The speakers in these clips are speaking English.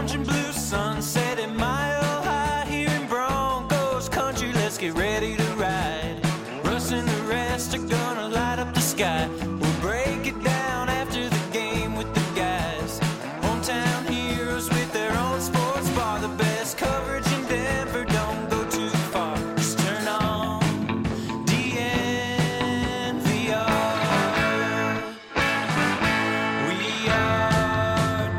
orange and blue sunset at Mile High here in Broncos country. Let's get ready to ride. Russ and the rest are gonna light up the sky. We'll break it down after the game with the guys. Hometown heroes with their own sports bar. The best coverage in Denver, don't go too far. Just turn on DNVR. We are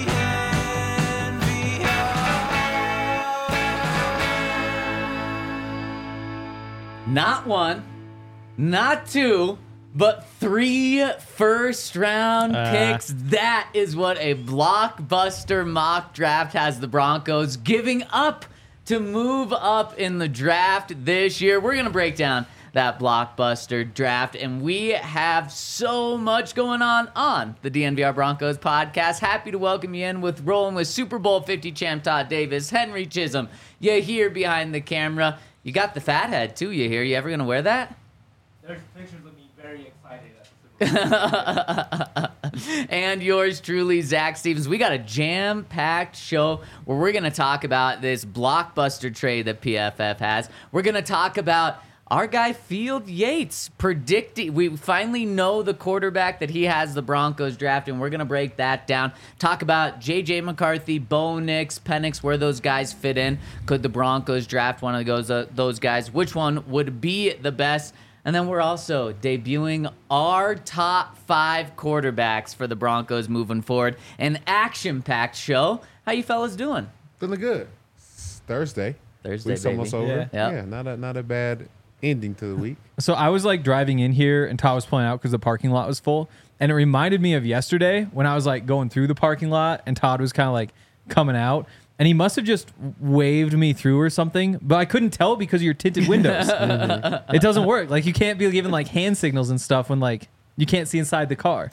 DNVR. Not one, not two, but 3 first-round picks. That is what a blockbuster mock draft has the Broncos giving up to move up in the draft this year. We're going to break down that blockbuster draft, and we have so much going on the DNVR Broncos podcast. Happy to welcome you in with rolling with Super Bowl 50 champ Todd Davis, Henry Chisholm. You here behind the camera. You got the fat head, too, you here. You ever going to wear that? There's pictures of me very excited at the Super Bowl. And yours truly, Zach Stevens. We got a jam-packed show where we're going to talk about this blockbuster trade that PFF has. We're going to talk about our guy Field Yates predicting. We finally know the quarterback that he has the Broncos draft, and we're going to break that down. Talk about J.J. McCarthy, Bo Nix, Penix, where those guys fit in. Could the Broncos draft one of those guys? Which one would be the best? And then we're also debuting our top 5 quarterbacks for the Broncos moving forward. An action-packed show. How you fellas doing? Feeling good. It's Thursday. Week's almost over. Yeah. Yeah, not a bad ending to the week. So I was like driving in here and Todd was pulling out because the parking lot was full. And it reminded me of yesterday when I was like going through the parking lot and Todd was kind of like coming out. And he must have just waved me through or something, but I couldn't tell because of your tinted windows. It doesn't work. Like you can't be giving like hand signals and stuff when like you can't see inside the car.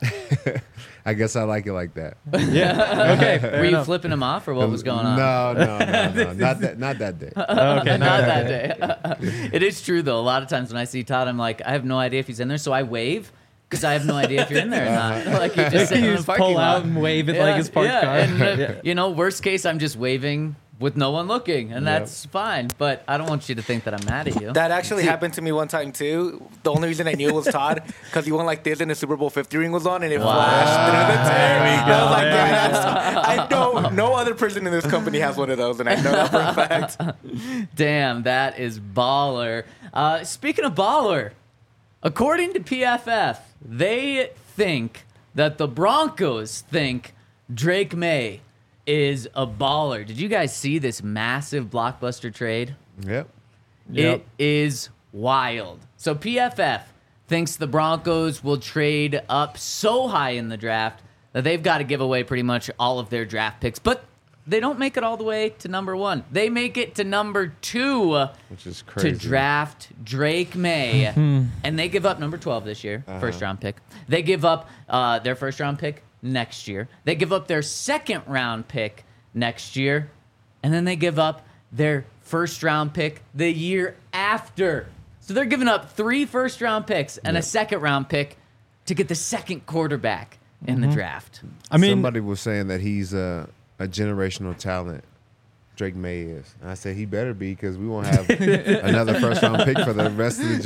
I guess I like it like that. Yeah. Okay. Were you flipping him off or what was going on? No. Not that day. Okay. Not that day. It is true, though. A lot of times when I see Todd, I'm like, I have no idea if he's in there, so I wave because I have no idea if you're in there or not. Like you just sit in the parking pull lot out and wave at like his parked car. And, you know, worst case, I'm just waving with no one looking, and that's fine. But I don't want you to think that I'm mad at you. That actually happened to me one time too. The only reason I knew it was Todd because he went like this and the Super Bowl 50 ring was on and it flashed through the There we I was like, yeah, I know no other person in this company has one of those, and I know that for a fact. Damn, that is baller. Speaking of baller, according to PFF, they think that the Broncos think Drake May is a baller. Did you guys see this massive blockbuster trade? Yep. It is wild. So PFF thinks the Broncos will trade up so high in the draft that they've got to give away pretty much all of their draft picks. But they don't make it all the way to number 1. They make it to number 2, which is crazy, to draft Drake May. And they give up number 12 this year, first-round pick. They give up their first-round pick next year. They give up their second-round pick next year. And then they give up their first-round pick the year after. So they're giving up 3 first-round picks and a second-round pick to get the second quarterback in the draft. I mean, somebody was saying that he's a generational talent. Drake May is. And I said he better be because we won't have another first-round pick for the rest of the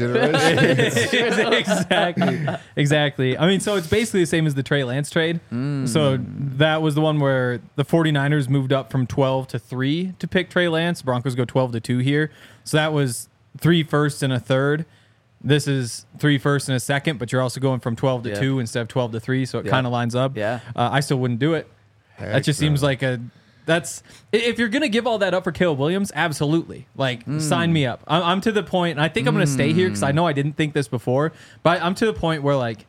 generation. Exactly. I mean, so it's basically the same as the Trey Lance trade. So that was the one where the 49ers moved up from 12 to 3 to pick Trey Lance. Broncos go 12 to 2 here. So that was 3 firsts and a third. This is 3 firsts and a second, but you're also going from 12 to 2 instead of 12 to 3, so it kind of lines up. Yeah. I still wouldn't do it. That just seems like that's if you're gonna give all that up for Caleb Williams, absolutely. Like, sign me up. I'm to the point, and I think I'm gonna stay here because I know I didn't think this before, but I'm to the point where like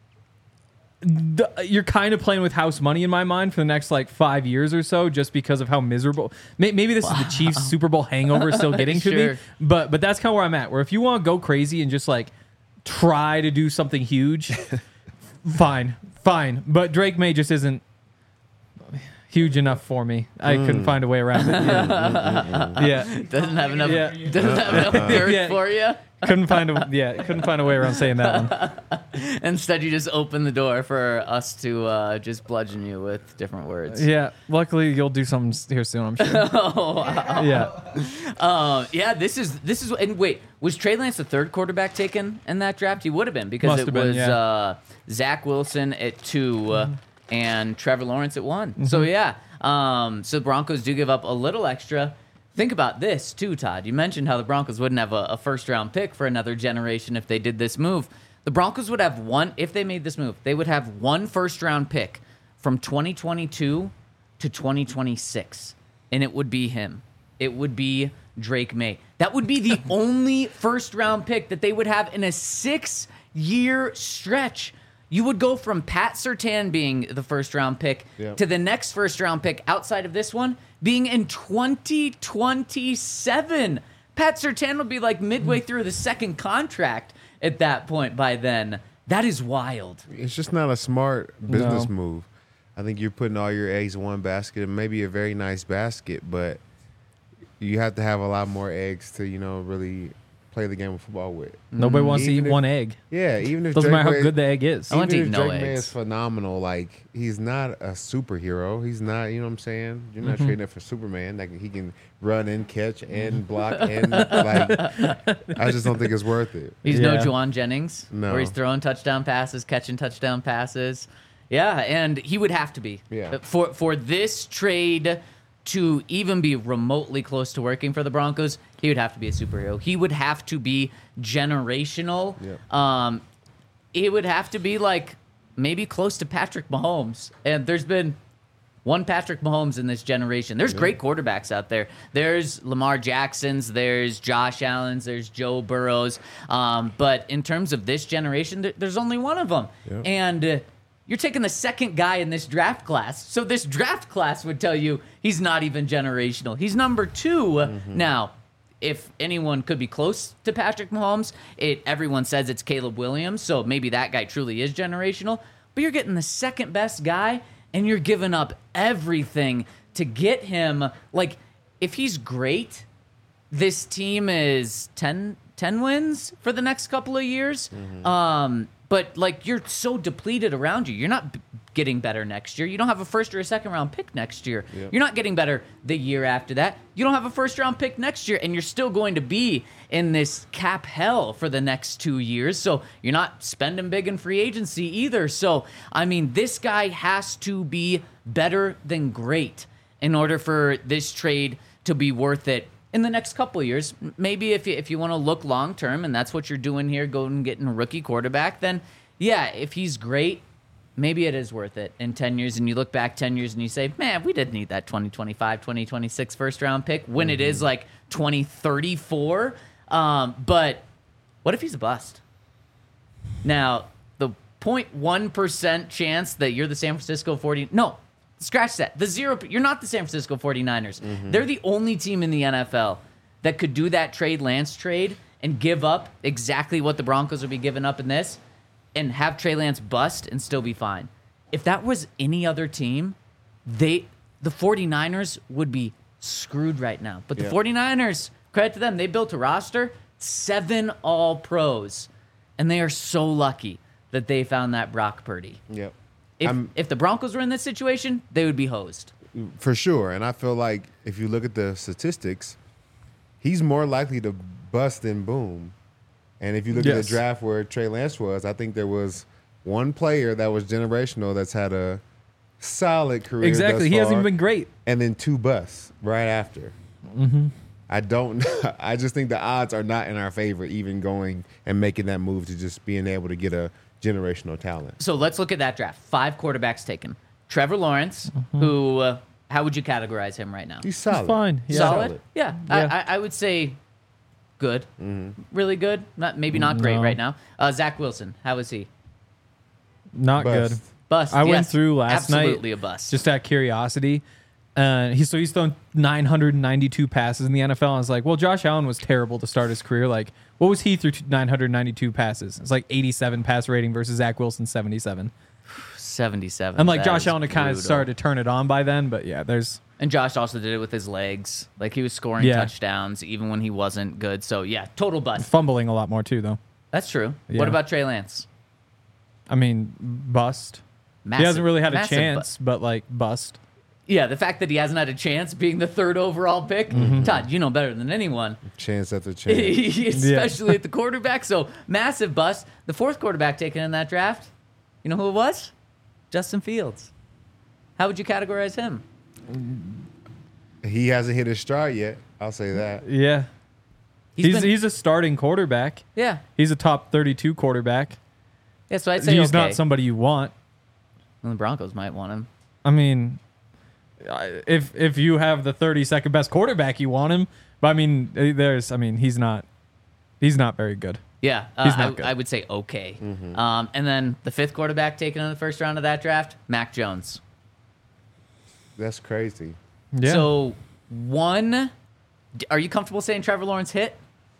you're kind of playing with house money in my mind for the next like 5 years or so, just because of how miserable. Maybe this is the Chiefs Super Bowl hangover still getting to me, but that's kind of where I'm at. Where if you want to go crazy and just like try to do something huge, fine. But Drake May just isn't. huge enough for me. I couldn't find a way around it. Yeah. Doesn't have enough. Yeah. Doesn't have enough girth Yeah. for you. Couldn't find a way around saying that one. Instead, you just open the door for us to just bludgeon you with different words. Yeah. Luckily, you'll do something here soon, I'm sure. Oh, wow. Yeah. Yeah, this is. And wait, was Trey Lance the third quarterback taken in that draft? He would have been because Must it have been, was yeah. Zach Wilson at 2 and Trevor Lawrence at 1. So yeah, so the Broncos do give up a little extra. Think about this too, Todd. You mentioned how the Broncos wouldn't have a first-round pick for another generation if they did this move. The Broncos would have one, if they made this move, they would have one first-round pick from 2022 to 2026, and it would be him. It would be Drake May. That would be the only first-round pick that they would have in a 6-year stretch. You would go from Pat Surtain being the first-round pick to the next first-round pick outside of this one being in 2027. Pat Surtain will be like midway through the second contract at that point by then. That is wild. It's just not a smart business No. move. I think you're putting all your eggs in one basket. It may be a very nice basket, but you have to have a lot more eggs to, really play the game of football with. Nobody wants to Even eat if- one egg. Yeah, even if Doesn't Drake matter how May- good the egg is. I want to even eat if no Drake May eggs. is phenomenal, like he's not a superhero. He's not, you know what I'm saying? You're not trading it for Superman. Like he can run and catch and block and like. I just don't think it's worth it. He's no Yeah. Juwan Jennings, No. where he's throwing touchdown passes, catching touchdown passes. Yeah, and he would have to be. Yeah. For this trade to even be remotely close to working for the Broncos, he would have to be a superhero. He would have to be generational. Yeah. It would have to be like maybe close to Patrick Mahomes. And there's been one Patrick Mahomes in this generation. There's great quarterbacks out there. There's Lamar Jacksons, there's Josh Allen's, there's Joe Burrows. But in terms of this generation, there's only one of them. Yeah. And you're taking the second guy in this draft class. So this draft class would tell you he's not even generational. He's number 2. Now, if anyone could be close to Patrick Mahomes, everyone says it's Caleb Williams, so maybe that guy truly is generational. But you're getting the second best guy, and you're giving up everything to get him. Like, if he's great, this team is 10 wins for the next couple of years. But, like, you're so depleted around you. You're not getting better next year. You don't have a first or a second round pick next year. Yep. You're not getting better the year after that. You don't have a first round pick next year, and you're still going to be in this cap hell for the next 2 years. So you're not spending big in free agency either. So, I mean, this guy has to be better than great in order for this trade to be worth it in the next couple of years. Maybe if you want to look long term, and that's what you're doing here, going and getting a rookie quarterback, then yeah, if he's great, maybe it is worth it in 10 years. And you look back 10 years and you say, man, we didn't need that 2025, 2026 first round pick when it is like 2034. But what if he's a bust? Now, the 0.1% chance that you're the San Francisco 40, no, scratch that. You're not the San Francisco 49ers. They're the only team in the NFL that could do that Lance trade and give up exactly what the Broncos would be giving up in this and have Trey Lance bust and still be fine. If that was any other team, the 49ers would be screwed right now. But the 49ers, credit to them, they built a roster, 7 All-Pros, and they are so lucky that they found that Brock Purdy. Yep. If the Broncos were in this situation, they would be hosed. For sure. And I feel like if you look at the statistics, he's more likely to bust than boom. And if you look at the draft where Trey Lance was, I think there was one player that was generational that's had a solid career. Exactly. thus He hasn't far, even been great. And then 2 busts right after. I just think the odds are not in our favor, even going and making that move to just being able to get a generational talent. So let's look at that draft. 5 quarterbacks taken. Trevor Lawrence, who, how would you categorize him right now? He's solid. He's fine. Yeah. Solid? Yeah. Yeah. I would say good. Really good. Maybe not great No. right now. Zach Wilson, how is he? Not Bust. good. Bust. I went yes. through last night. Absolutely a bust. Just out of curiosity. He's thrown 992 passes in the NFL. I was like, well, Josh Allen was terrible to start his career. Like, what was he through 992 passes? It's like 87 pass rating versus Zach Wilson 77. 77. And like That Josh is Allen had kind of brutal. started to turn it on by then, but yeah, there's And Josh also did it with his legs. Like he was scoring Yeah. touchdowns even when he wasn't good. So yeah, total bust. fumbling a lot more too, though. That's true. Yeah. What about Trey Lance? I mean, bust. Massive, He hasn't really had a massive chance, but like bust. Yeah, the fact that he hasn't had a chance being the 3rd overall pick. Todd, you know better than anyone. Chance after chance. Especially at the quarterback. So massive bust. The 4th quarterback taken in that draft, you know who it was? Justin Fields. How would you categorize him? He hasn't hit his stride yet. I'll say that. Yeah. He's been- He's a starting quarterback. Yeah. He's a top 32 quarterback. Yeah, so I'd say He's okay. not somebody you want. Well, the Broncos might want him. I mean, if you have the 32nd best quarterback, you want him. But I mean, he's not very good. Yeah, He's not good. I would say okay. And then the 5th quarterback taken in the 1st round of that draft, Mac Jones. That's crazy. Yeah. So are you comfortable saying Trevor Lawrence hit?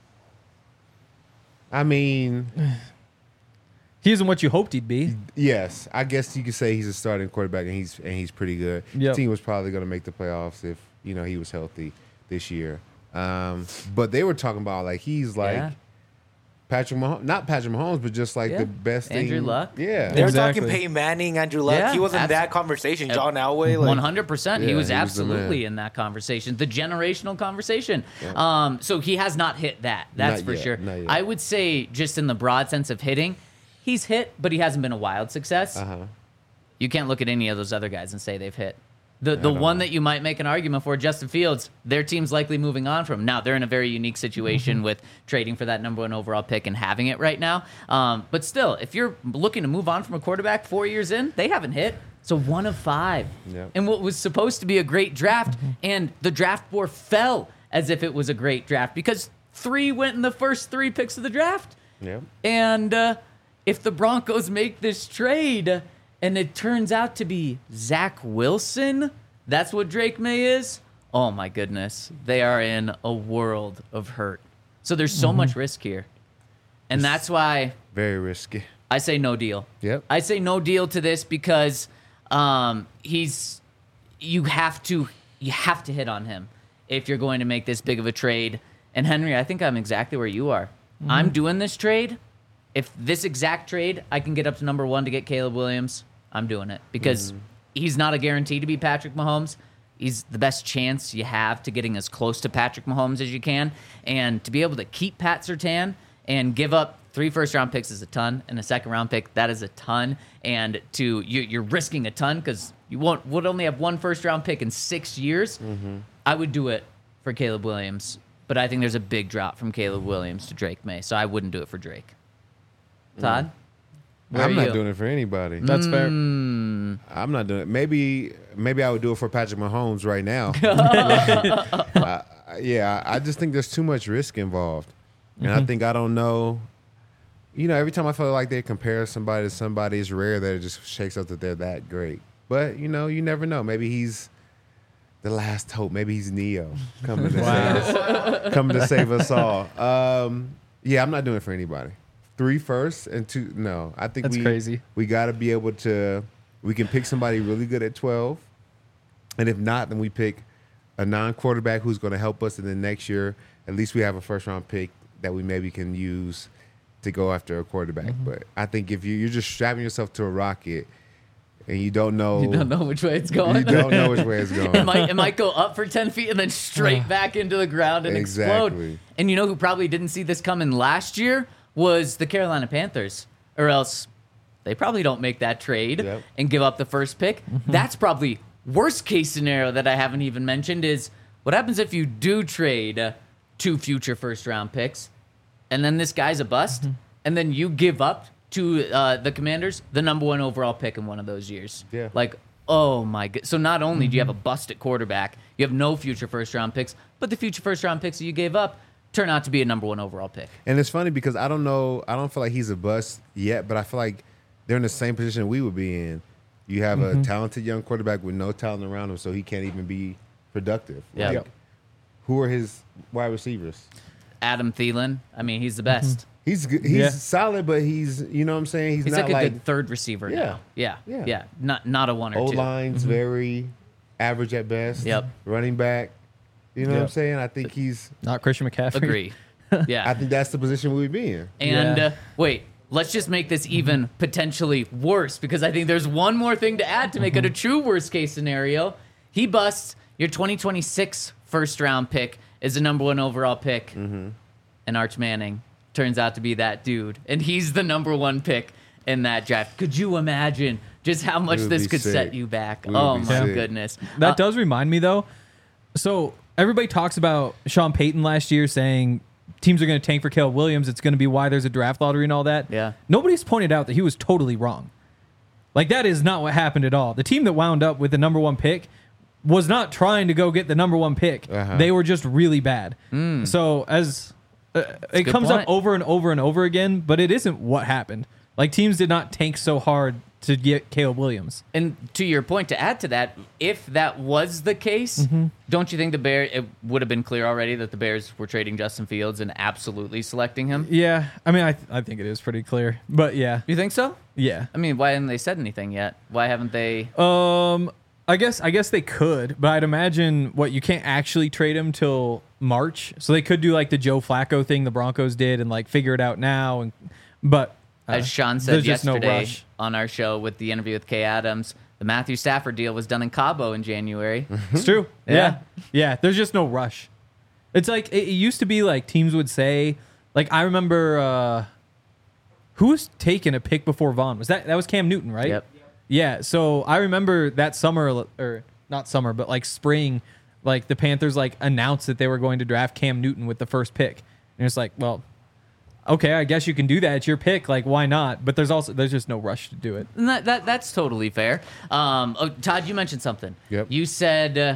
I mean, he isn't what you hoped he'd be. yes, I guess you could say he's a starting quarterback, and he's pretty good. Yep. The team was probably going to make the playoffs if he was healthy this year. But they were talking about like he's like Yeah. Patrick Mahomes, not Patrick Mahomes, but just like Yeah. the best Andrew thing. Luck. Yeah, They were Exactly. talking Peyton Manning, Andrew Luck. Yeah, He was in abs- that conversation. John Elway. Like, 100%. He Yeah, was he was the absolutely man. in that conversation, the generational conversation. So he has not hit that. That's Not for yet, sure. not yet. I would say, just in the broad sense of hitting, he's hit, but he hasn't been a wild success. You can't look at any of those other guys and say they've hit. The one that you might make an argument for, Justin Fields, their team's likely moving on from. Now, they're in a very unique situation with trading for that number 1 overall pick and having it right now. But still, if you're looking to move on from a quarterback 4 years in, they haven't hit. So 1 of 5. Yep. And what was supposed to be a great draft, and the draft board fell as if it was a great draft because 3 went in the first 3 picks of the draft. yeah. And if the Broncos make this trade and it turns out to be Zach Wilson, that's what Drake May is, oh my goodness. They are in a world of hurt. So there's so much risk here. And that's why Very risky. I say no deal. Yep. I say no deal to this because you have to hit on him if you're going to make this big of a trade. And Henry, I think I'm exactly where you are. I'm doing this trade. If this exact trade, I can get up to number 1 to get Caleb Williams, I'm doing it because he's not a guarantee to be Patrick Mahomes. He's the best chance you have to getting as close to Patrick Mahomes as you can. And to be able to keep Pat Surtain and give up 3 first-round picks is a ton, and a second-round pick, that is a ton. And you're risking a ton because you would only have 1 first-round pick in 6 years. I would do it for Caleb Williams, but I think there's a big drop from Caleb Williams to Drake May, so I wouldn't do it for Drake. Todd? Where I'm are not you? doing it for anybody. That's fair. Mm. I'm not doing it. Maybe I would do it for Patrick Mahomes right now. Yeah, I just think there's too much risk involved. And I think I don't know. Every time I feel like they compare somebody to somebody, it's rare that it just shakes up that they're that great. But, you never know. Maybe he's the last hope. Maybe he's Neo coming to save us all. Yeah, I'm not doing it for anybody. 3 firsts and 2. No, I think That's crazy. We got to be able to. We can pick somebody really good at 12, and if not, then we pick a non-quarterback who's going to help us. And then next year, at least we have a first-round pick that we maybe can use to go after a quarterback. But I think if you're just strapping yourself to a rocket and you don't know which way it's going. you don't know which way it's going. It might go up for 10 feet and then straight back into the ground and explode. Exactly. And you know who probably didn't see this coming last year was the Carolina Panthers, or else they probably don't make that trade Yep. and give up the first pick. That's probably worst case scenario that I haven't even mentioned is what happens if you do trade 2 future first round picks and then this guy's a bust and then you give up to the Commanders the number 1 overall pick in one of those years. Yeah. Like, oh my god. So not only do you have a bust at quarterback, you have no future first round picks, but the future first round picks that you gave up turn out to be a number 1 overall pick. And it's funny because I don't feel like he's a bust yet, but I feel like they're in the same position we would be in. You have a talented young quarterback with no talent around him, so he can't even be productive. Yeah. Like, who are his wide receivers? Adam Thielen, I mean, he's the best. He's good. He's solid, but he's, you know what I'm saying? He's not like a good third receiver now. Yeah. Not a one or two. O-line's very average at best. Yep. Running back. You know what I'm saying? I think he's... Not Christian McCaffrey. Agree. Yeah. I think that's the position we'd be in. And wait, let's just make this even potentially worse, because I think there's one more thing to add to make it a true worst case scenario. He busts your 2026 first round pick is the number 1 overall pick, and Arch Manning turns out to be that dude, and he's the number 1 pick in that draft. Could you imagine just how much this could set you back? Oh my goodness. That does remind me though. So everybody talks about Sean Payton last year saying teams are going to tank for Caleb Williams. It's going to be why there's a draft lottery and all that. Yeah. Nobody's pointed out that he was totally wrong. Like, that is not what happened at all. The team that wound up with the number 1 pick was not trying to go get the number 1 pick. They were just really bad. So as it comes up over and over and over again, but it isn't what happened. Like, teams did not tank so hard to get Caleb Williams. And to your point, to add to that, if that was the case, don't you think it would have been clear already that the Bears were trading Justin Fields and absolutely selecting him? Yeah. I mean, I think it is pretty clear. But yeah. You think so? Yeah. I mean, why haven't they said anything yet? Why haven't they? I guess they could, but I'd imagine you can't actually trade him till March. So they could do like the Joe Flacco thing the Broncos did and like figure it out now. But as Sean said yesterday on our show with the interview with Kay Adams, the Matthew Stafford deal was done in Cabo in January. It's true. Yeah. There's just no rush. It's like it used to be like teams would say, like, I remember who was taking a pick before Vaughn? That was Cam Newton, right? Yep. Yeah. So I remember that summer, or not summer, but like spring, like the Panthers like announced that they were going to draft Cam Newton with the first pick, and it's like, well, okay, I guess you can do that. It's your pick. Like, why not? But there's just no rush to do it. And that's totally fair. Todd, you mentioned something. Yep. You said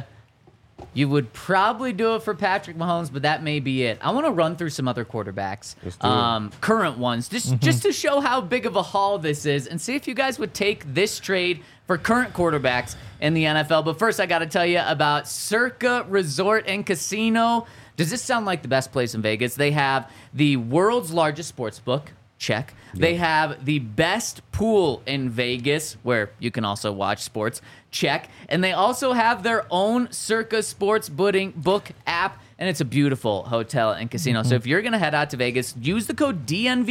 you would probably do it for Patrick Mahomes, but that may be it. I want to run through some other quarterbacks, current ones, just to show how big of a haul this is, and see if you guys would take this trade for current quarterbacks in the NFL. But first, I got to tell you about Circa Resort and Casino. Does this sound like the best place in Vegas? They have the world's largest sports book. Check. Yep. They have the best pool in Vegas, where you can also watch sports. Check. And they also have their own Circa Sports book app, and it's a beautiful hotel and casino. So if you're going to head out to Vegas, use the code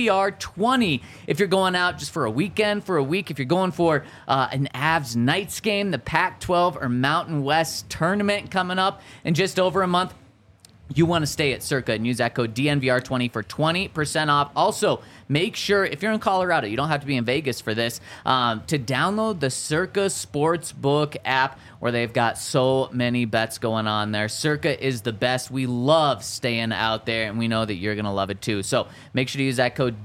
DNVR20 if you're going out just for a weekend, for a week. If you're going for an Avs Knights game, the Pac-12 or Mountain West tournament coming up in just over a month, you want to stay at Circa and use that code DNVR20 for 20% off. Also, make sure, if you're in Colorado, you don't have to be in Vegas for this, to download the Circa Sportsbook app, where they've got so many bets going on there. Circa is the best. We love staying out there, and we know that you're going to love it too. So make sure to use that code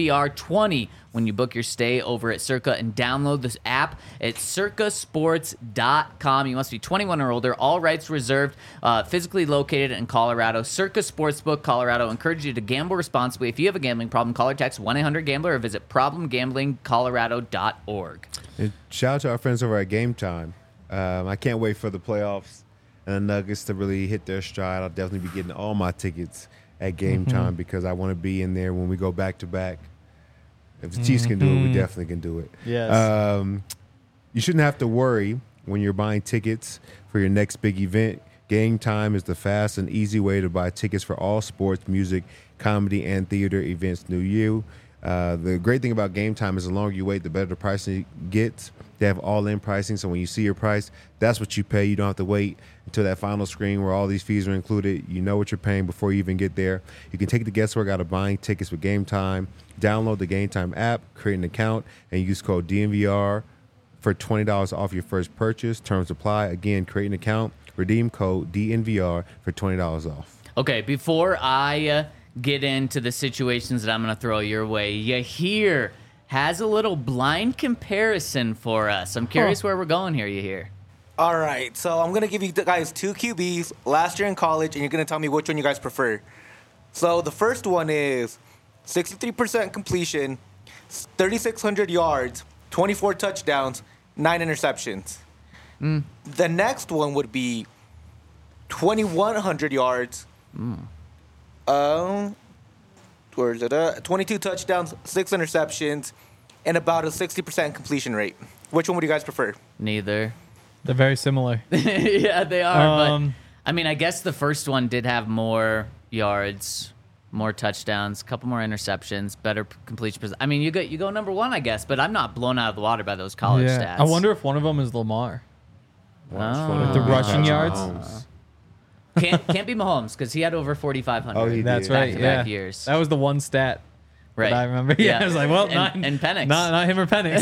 DNVR20 when you book your stay over at Circa, and download this app at circasports.com. You must be 21 or older. All rights reserved. Physically located in Colorado. Circa Sportsbook, Colorado. Encourage you to gamble responsibly. If you have a gambling problem, call or text 1-800-GAMBLER or visit problemgamblingcolorado.org. And shout out to our friends over at Game Time. I can't wait for the playoffs and the Nuggets to really hit their stride. I'll definitely be getting all my tickets at Game Time, because I want to be in there when we go back to back. If the Chiefs can do it, we definitely can do it. Yes. You shouldn't have to worry when you're buying tickets for your next big event. Game Time is the fast and easy way to buy tickets for all sports, music, comedy, and theater events near you. The great thing about Game Time is the longer you wait, the better the pricing gets. They have all-in pricing, so when you see your price, that's what you pay. You don't have to wait until that final screen where all these fees are included. You know what you're paying before you even get there. You can take the guesswork out of buying tickets with Game Time. Download the Game Time app, create an account, and use code DNVR for $20 off your first purchase. Terms apply. Again, create an account, redeem code DNVR for $20 off. Okay, before I get into the situations that I'm going to throw your way, Yahir has a little blind comparison for us. I'm curious where we're going here, Yahir. All right, so I'm going to give you guys 2 QBs last year in college, and you're going to tell me which one you guys prefer. So the first one is 63% completion, 3,600 yards, 24 touchdowns, 9 interceptions. The next one would be 2,100 yards, where is it? 22 touchdowns, 6 interceptions, and about a 60% completion rate. Which one would you guys prefer? Neither. They're very similar. Yeah, they are. Um, But I mean, I guess the first one did have more yards, more touchdowns, a couple more interceptions, better completion percentage. I mean, you go number one, I guess, but I'm not blown out of the water by those college stats. I wonder if one of them is Lamar. Oh. The rushing yards? Mahomes. Can't be Mahomes because he had over 4,500. Oh, he That's did. right. Back-to-back Yeah, years. that was the one stat Right. that I remember. Yeah, I was like, well, and Penix. not him or Penix.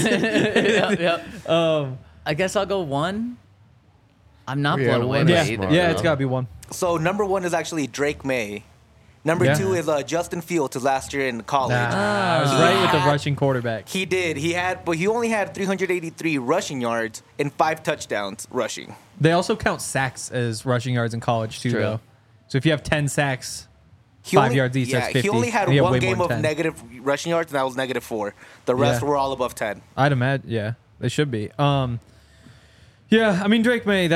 Yep. I guess I'll go one. I'm not Yeah, blown away one by is either. smart. Yeah, it's got to be one. So number 1 is actually Drake May. Number Yeah. 2 is Justin Fields, his last year in college. I was right with the rushing quarterback. He did. But he only had 383 rushing yards and 5 touchdowns rushing. They also count sacks as rushing yards in college too, True. though. So if you have 10 sacks, He 5 only- yards each, that's 50. He only had You have one way game more of than 10. negative rushing yards, and that was -4. The rest Yeah. were all above 10. I'd imagine, yeah, they should be. Yeah, I mean Drake May,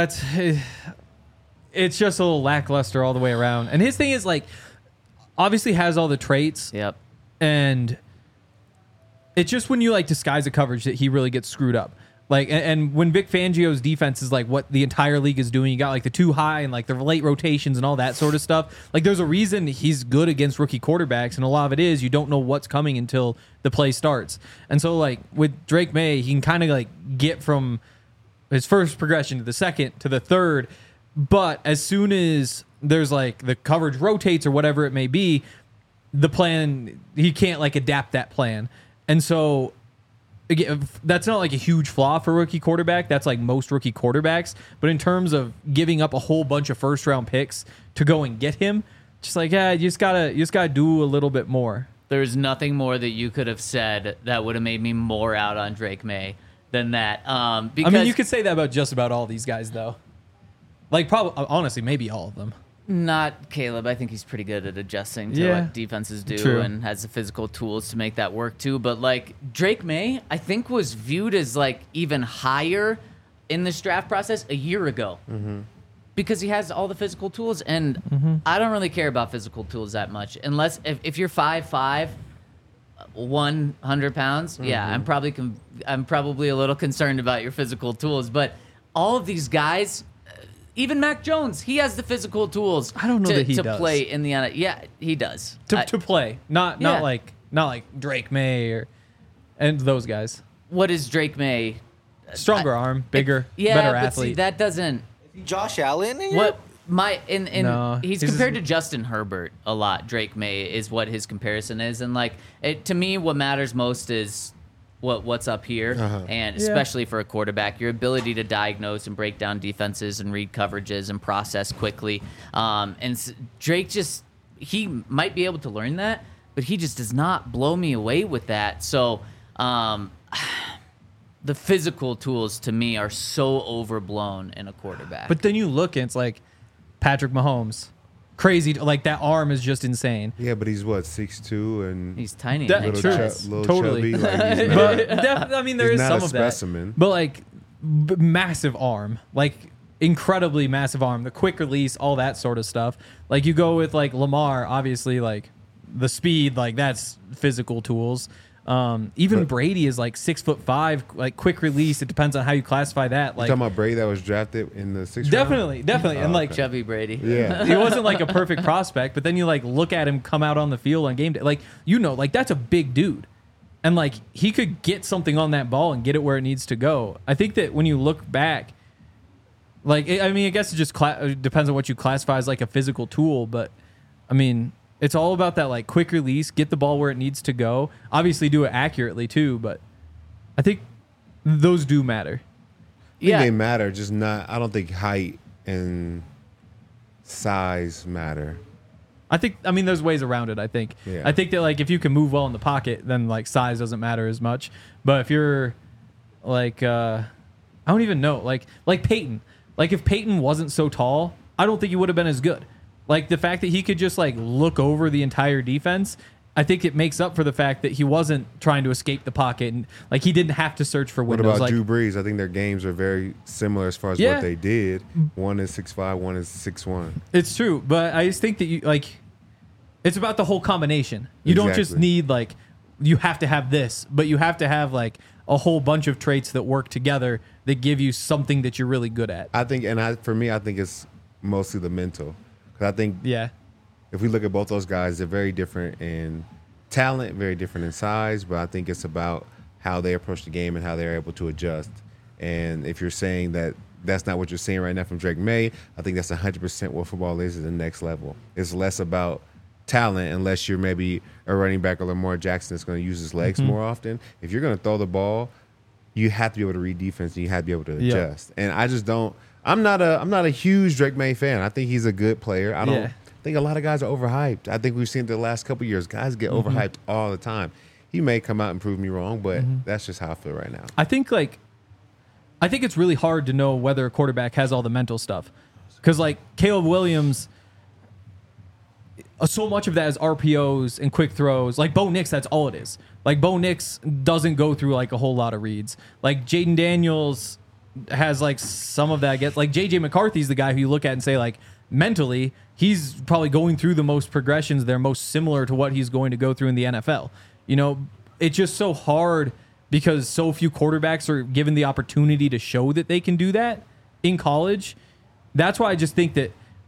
it's just a little lackluster all the way around. And his thing is like, obviously has all the traits, Yep. and it's just when you like disguise a coverage that he really gets screwed up. Like, and when Vic Fangio's defense is like what the entire league is doing, you got like the too high and like the late rotations and all that sort of stuff. Like, there's a reason he's good against rookie quarterbacks, and a lot of it is you don't know what's coming until the play starts. And so, like with Drake May, he can kind of like get from his first progression to the second to the third, but as soon as there's like the coverage rotates or whatever it may be, the plan, he can't like adapt that plan. And so again, that's not like a huge flaw for a rookie quarterback. That's like most rookie quarterbacks. But in terms of giving up a whole bunch of first round picks to go and get him, just like, yeah, you just gotta do a little bit more. There's nothing more that you could have said that would have made me more out on Drake May than that. Because I mean, you could say that about just about all these guys, though. Like, probably, honestly, maybe all of them. Not Caleb. I think he's pretty good at adjusting to Yeah. what defenses do True. and has the physical tools to make that work too. But like Drake May, I think was viewed as like even higher in this draft process a year ago because he has all the physical tools. And I don't really care about physical tools that much unless if you're 5'5", 100 pounds. Yeah, I'm probably a little concerned about your physical tools. But all of these guys. Even Mac Jones, he has the physical tools. I don't know to, that he to does. play in the NFL. Yeah, he does. To play, not Yeah. like Drake May and those guys. What is Drake May? Stronger arm, bigger, Yeah, better but athlete. see, that doesn't. Josh Allen? In What my in No, he's he's compared just- to Justin Herbert a lot. Drake May is what his comparison is, and like to me, what matters most is what's up here, and especially for a quarterback, your ability to diagnose and break down defenses and read coverages and process quickly. Drake just he might be able to learn that, but he just does not blow me away with that. So. The physical tools to me are so overblown in a quarterback. But then you look and it's like Patrick Mahomes, crazy. Like that arm is just insane. Yeah, but he's what, 6'2" and he's tiny. That- and little, true. nice. little Totally. chubby. Like he's But not, I mean, there he's is not some a of that. specimen. But like massive arm, like incredibly massive arm, the quick release, all that sort of stuff. Like you go with like Lamar, obviously, like the speed, like that's physical tools. Even Brady is like 6'5", like quick release. It depends on how you classify that. You Like talking about Brady that was drafted in the 6th definitely, and like Chubby Brady. Yeah. he wasn't like a perfect prospect, but then you like look at him come out on the field on game day, like like that's a big dude, and like he could get something on that ball and get it where it needs to go. I think that when you look back, like I mean, I guess it just depends on what you classify as like a physical tool, but I mean, it's all about that like quick release, get the ball where it needs to go. Obviously, do it accurately too, but I think those do matter. I think Yeah. they matter, just not. I don't think height and size matter. I mean, there's ways around it. I think. Yeah. I think that like if you can move well in the pocket, then like size doesn't matter as much. But if you're like, I don't even know, like Peyton. Like if Peyton wasn't so tall, I don't think he would have been as good. Like the fact that he could just like look over the entire defense, I think it makes up for the fact that he wasn't trying to escape the pocket and like he didn't have to search for What windows. about Like Drew Brees? I think their games are very similar as far as Yeah. what they did. One is 6'5", one is 6'1". it's true, but I just think that you like It's about the whole combination. You don't just Exactly. need like you have to have this, but you have to have like a whole bunch of traits that work together that give you something that you're really good at. I think, for me, I think it's mostly the mental. 'Cause I think Yeah. if we look at both those guys, they're very different in talent, very different in size, but I think it's about how they approach the game and how they're able to adjust. And if you're saying that that's not what you're seeing right now from Drake May, I think that's 100% what football is at the next level. It's less about talent unless you're maybe a running back or Lamar Jackson that's going to use his legs more often. If you're going to throw the ball, you have to be able to read defense and you have to be able to adjust. And I just don't. I'm not a huge Drake May fan. I think he's a good player. I don't think a lot of guys are overhyped. I think we've seen it the last couple of years. Guys get overhyped all the time. He may come out and prove me wrong, but that's just how I feel right now. I think it's really hard to know whether a quarterback has all the mental stuff. Because like Caleb Williams, so much of that is RPOs and quick throws. Like Bo Nix, that's all it is. Like Bo Nix doesn't go through like a whole lot of reads. Like Jaden Daniels has like some of that. Gets like JJ McCarthy's the guy who you look at and say like mentally he's probably going through the most progressions. They're most similar to what he's going to go through in the NFL. You know, it's just so hard because so few quarterbacks are given the opportunity to show that they can do that in college. That's why I just think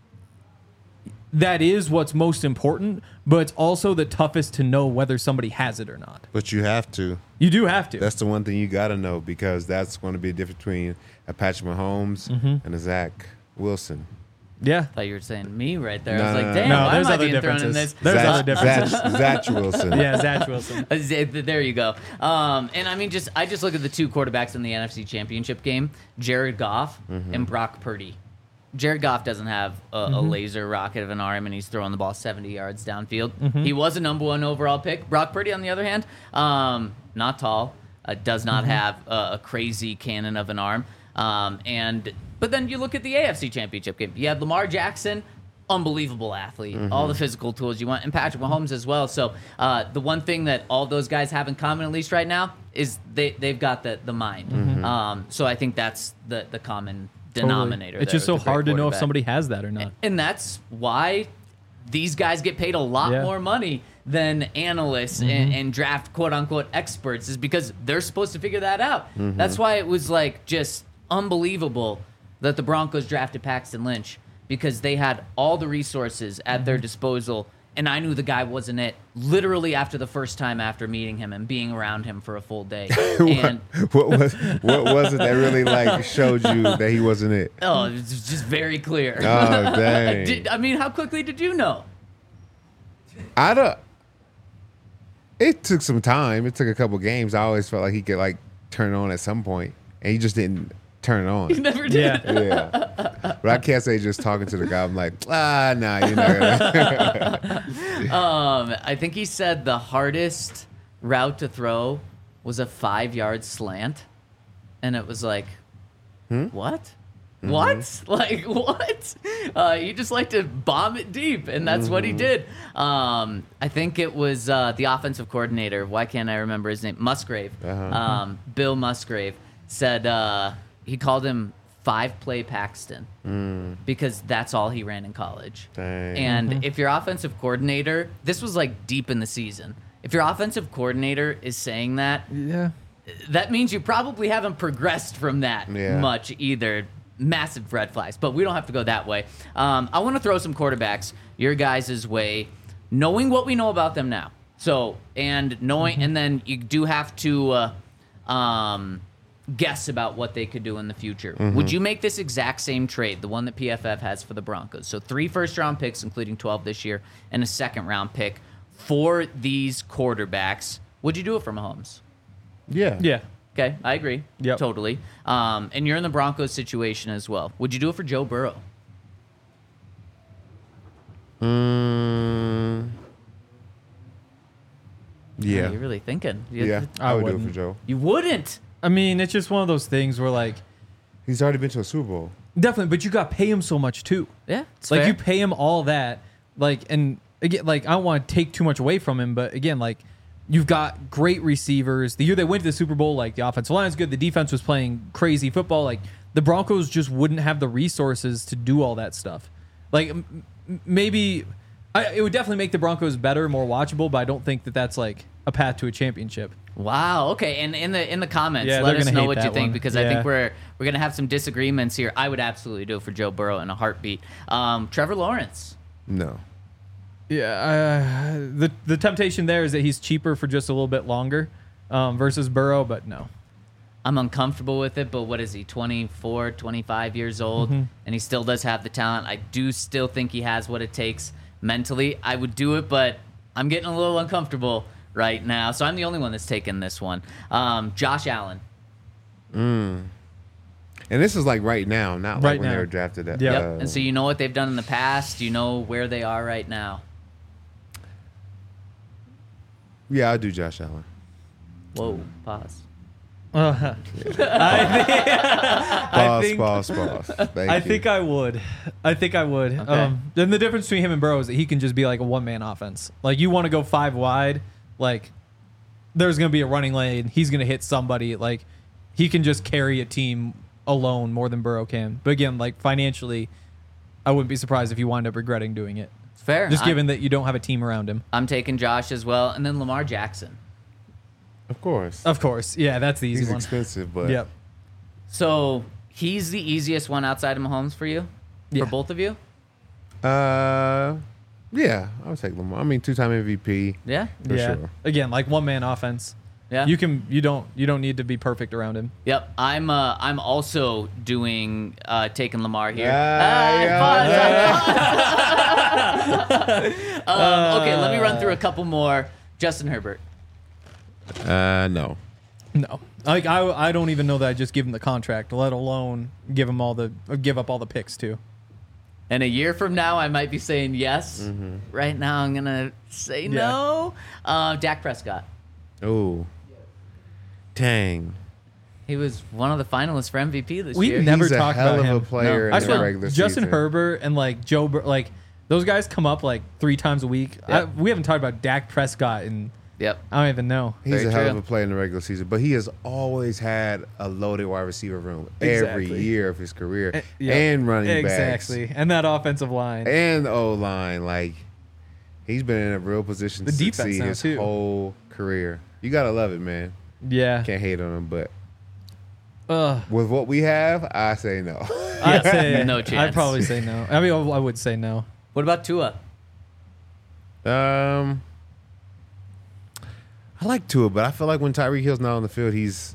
that is what's most important, but it's also the toughest to know whether somebody has it or not. But you have to. You do have to. That's the one thing you got to know because that's going to be a difference between a Patrick Mahomes and a Zach Wilson. Yeah. I thought you were saying me right there. I No, was no, like, no. damn, No, why there's am I other being thrown in differences. this? There's other differences. Zach Wilson. Yeah, Zach Wilson. There you go. And I mean, I just look at the two quarterbacks in the NFC Championship game, Jared Goff and Brock Purdy. Jared Goff doesn't have a laser rocket of an arm, and he's throwing the ball 70 yards downfield. He was a number 1 overall pick. Brock Purdy, on the other hand, not tall, does not have a crazy cannon of an arm. But then you look at the AFC Championship game. You had Lamar Jackson, unbelievable athlete, all the physical tools you want, and Patrick Mahomes as well. So the one thing that all those guys have in common, at least right now, is they've got the mind. So I think that's the common denominator. It's there just so with the great hard to know if quarterback. somebody has that or not. And that's why these guys get paid a lot Yeah. more money than analysts and draft quote-unquote experts, is because they're supposed to figure that out. That's why it was like just unbelievable that the Broncos drafted Paxton Lynch, because they had all the resources at their disposal, and I knew the guy wasn't it literally after the first time after meeting him and being around him for a full day. And what was it that really like showed you that he wasn't it? oh, it was just very clear. Oh dang! I mean, how quickly did you know? I don't. It took some time. It took a couple games. I always felt like he could like turn it on at some point, and he just didn't turn it on. You never did. Yeah. Yeah, but I can't say just talking to the guy. I'm like, nah, you're not gonna. I think he said the hardest route to throw was a 5-yard slant, and it was like, what? What? Like what? He just liked to bomb it deep, and that's what he did. I think it was the offensive coordinator. Why can't I remember his name? Musgrave. Bill Musgrave said he called him 5-play Paxton because that's all he ran in college. Dang. And if your offensive coordinator, this was like deep in the season, if your offensive coordinator is saying that, Yeah. that means you probably haven't progressed from that Yeah. much either. Massive red flags, but we don't have to go that way. I want to throw some quarterbacks your guys' way, knowing what we know about them now. So, and knowing, and then you do have to guess about what they could do in the future. Would you make this exact same trade, the one that PFF has for the Broncos? So 3 first-round picks, including 12 this year, and a second-round pick for these quarterbacks. Would you do it for Mahomes? Yeah. Yeah. Okay, I agree. Yep. Totally. And you're in the Broncos situation as well. Would you do it for Joe Burrow? Yeah. You're really thinking. Yeah. I would do it for wouldn't. Joe. You wouldn't. I mean, it's just one of those things where like He's already been to a Super Bowl. definitely, but you got to pay him so much too. Yeah. It's Like fair. you pay him all that, like, and again, like I don't want to take too much away from him, but again, like you've got great receivers. The year they went to the Super Bowl, like the offensive line is good, the defense was playing crazy football. Like the Broncos just wouldn't have the resources to do all that stuff. Like maybe It would definitely make the Broncos better, more watchable, but I don't think that that's like a path to a championship. Wow. Okay. And in the comments, Yeah, let they're us gonna know hate what you that think one. because I Yeah. think we're gonna have some disagreements here. I would absolutely do it for Joe Burrow in a heartbeat. Trevor Lawrence. No. Yeah, the temptation there is that he's cheaper for just a little bit longer versus Burrow, but no. I'm uncomfortable with it, but what is he, 24, 25 years old, and he still does have the talent. I do still think he has what it takes mentally. I would do it, but I'm getting a little uncomfortable right now, so I'm the only one that's taking this one. Josh Allen. And this is like right now, not like Right when now. they were drafted. At, Yep. And so you know what they've done in the past. You know where they are right now. yeah, I'll do Josh Allen. Whoa, pause. I think- Pause. Thank I you. think I would. Okay. Then the difference between him and Burrow is that he can just be like a one-man offense. Like you want to go 5 wide, like there's going to be a running lane. He's going to hit somebody. Like he can just carry a team alone more than Burrow can. But again, like financially, I wouldn't be surprised if you wind up regretting doing it. It's fair. Just given that you don't have a team around him. I'm taking Josh as well, and then Lamar Jackson. Of course. Of course. Yeah, that's the easy He's one. expensive, but Yep. So he's the easiest one outside of Mahomes for you, Yeah. for both of you. yeah, I would take Lamar. I mean, 2-time MVP Yeah, for yeah. sure. Again, like one-man offense. yeah. You don't need to be perfect around him. Yep. I'm also doing taking Lamar here. Okay, let me run through a couple more. Justin Herbert. No. No, like I don't even know that I just give him the contract, let alone give up all the picks too. And a year from now, I might be saying yes. Right now, I'm gonna say no. Dak Prescott. Oh. Dang. He was one of the finalists for MVP this We year. never He's a talked hell about of him. a player I in the swear, regular Justin season. Herbert and like Joe, like those guys come up like 3 times a week. Yep. We haven't talked about Dak Prescott in Yep. I don't even know. He's Very a hell true. of a player in the regular season, but he has always had a loaded wide receiver room every Exactly. year of his career, Yep. and running Exactly, and that offensive line. backs, and the O-line. Like, he's been in a real position The to defense succeed now, his too. whole career. You gotta love it, man. Yeah, Can't hate on him, but Ugh. with what we have, I say no. I'd say No I'd chance. probably say no. I mean, I would say no. What about Tua? I like Tua, but I feel like when Tyreek Hill's not on the field, he's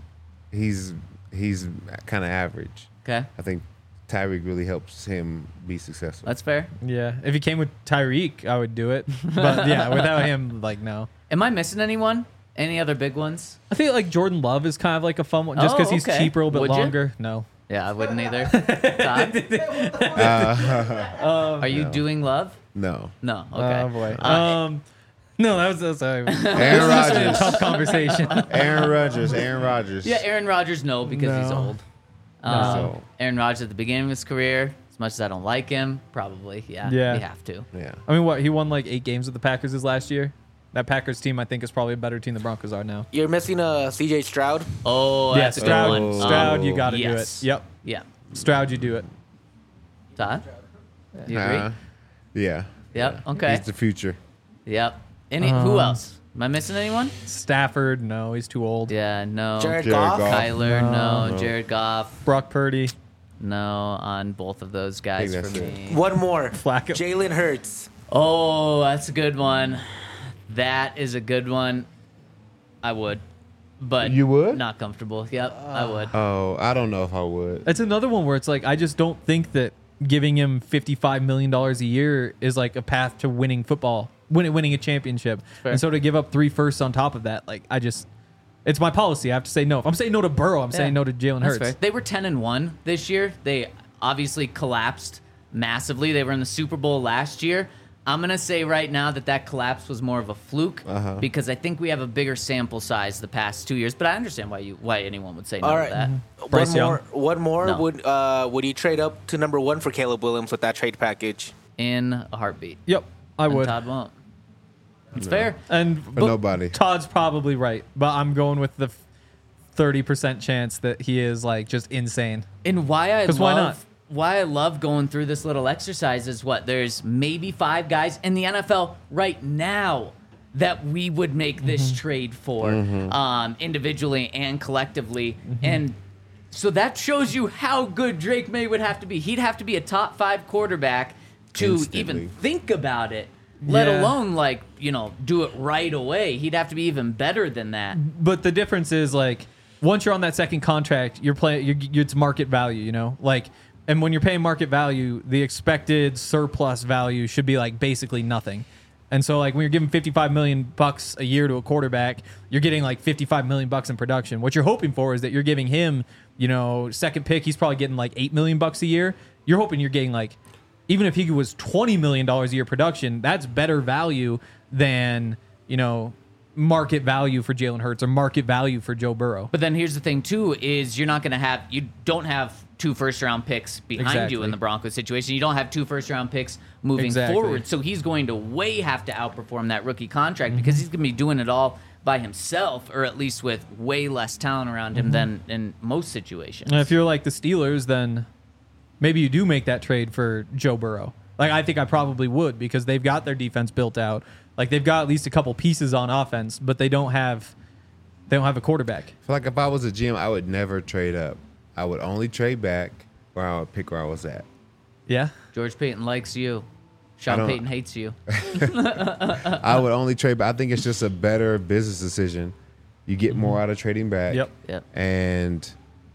kind of average. Okay, I think Tyreek really helps him be successful. that's fair. Yeah, if he came with Tyreek, I would do it. But yeah, without him, like no. Am I missing anyone? Any other big ones? I think like Jordan Love is kind of like a fun one, just because he's okay. cheaper, a little bit Would you? longer. No. Yeah, I wouldn't either. Todd? Are you doing love? No. No. Okay. Oh boy. No, that was sorry. Aaron a Rodgers. tough conversation. Aaron Rodgers. Yeah, Aaron Rodgers, no, because he's No. old. No. Aaron Rodgers at the beginning of his career, as much as I don't like him, probably, yeah. Yeah. You have to. Yeah. I mean, what he won like 8 games with the Packers his last year. That Packers team, I think, is probably a better team than the Broncos are now. You're missing CJ Stroud. Oh, Yeah, that's a Stroud. good one. Stroud, you got to yes. do it. Yep, Yeah. Stroud, you do it. Todd? You agree? Yeah. Yep. Okay. He's the future. Yep. Who else? Am I missing anyone? Stafford, no, he's too old. Yeah, no. Jared Jared Goff. Goff. Kyler, no. No. Jared Goff, Brock Purdy, no. On both of those guys I for think that's me. One more. Flacco. Jalen Hurts. Oh, that's a good one. That is a good one. I would, but You would? not comfortable. Yep, I would. Oh, I don't know if I would. It's another one where it's like I just don't think that giving him $55 million a year is like a path to winning football, winning a championship. Fair. And so to give up 3 firsts on top of that, like it's my policy. I have to say no. If I'm saying no to Burrow, I'm saying no to Jalen That's Hurts. fair. They were 10-1 this year. They obviously collapsed massively. They were in the Super Bowl last year. I'm gonna say right now that collapse was more of a fluke because I think we have a bigger sample size the past 2 years. But I understand why anyone would say no All to right. that. Bryce One more. No. Would you trade up to number 1 for Caleb Williams with that trade package? In a heartbeat. Yep, I And would. Todd won't. It's fair. And but nobody. Todd's probably right, but I'm going with the 30% chance that he is like just insane. And why I 'Cause why love not? why I love going through this little exercise is there's maybe 5 guys in the NFL right now that we would make this trade for individually and collectively. And so that shows you how good Drake May would have to be. He'd have to be a top 5 quarterback to Instantly. even think about it, let alone do it right away. He'd have to be even better than that. But the difference is once you're on that second contract, it's market value, and when you're paying market value, the expected surplus value should be basically nothing. And so when you're giving $55 million a year to a quarterback, you're getting $55 million in production. What you're hoping for is that you're giving him, second pick, he's probably getting $8 million a year. You're hoping you're getting even if he was $20 million a year production, that's better value than, market value for Jalen Hurts or market value for Joe Burrow. But then here's the thing too, is you don't have 2 first-round picks behind you in the Broncos situation. You don't have 2 first-round picks moving forward. So he's going to have to outperform that rookie contract because he's going to be doing it all by himself, or at least with way less talent around him than in most situations. And if you're the Steelers, then maybe you do make that trade for Joe Burrow. I think I probably would because they've got their defense built out. They've got at least a couple pieces on offense, but they don't have a quarterback. I feel if I was a GM, I would never trade up. I would only trade back, or I would pick where I was at. Yeah. George Payton likes you. Sean Payton hates you. I would only trade back. I think it's just a better business decision. You get more out of trading back. Yep. And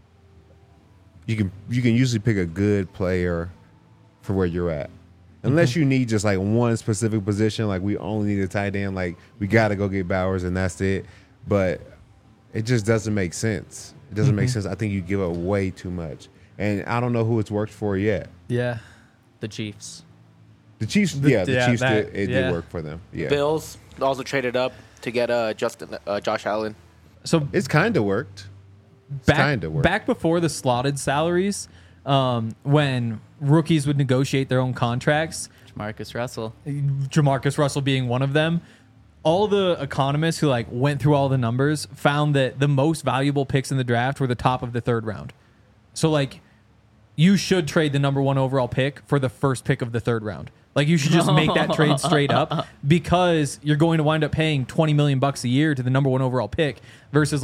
you can usually pick a good player for where you're at. Unless you need just one specific position, we only need a tight end, we got to go get Bowers and that's it. But it just doesn't make sense. It doesn't make sense. I think you give up way too much. And I don't know who it's worked for yet. Yeah. The Chiefs. The Chiefs, the Chiefs did work for them. Yeah. Bills also traded up to get Josh Allen. So it's kind of worked. Back before the slotted salaries, when rookies would negotiate their own contracts, Jamarcus Russell being one of them, all the economists who went through all the numbers found that the most valuable picks in the draft were the top of the 3rd round. So you should trade the number 1 overall pick for the first pick of the 3rd round. You should just make that trade straight up because you're going to wind up paying $20 million a year to the number 1 overall pick versus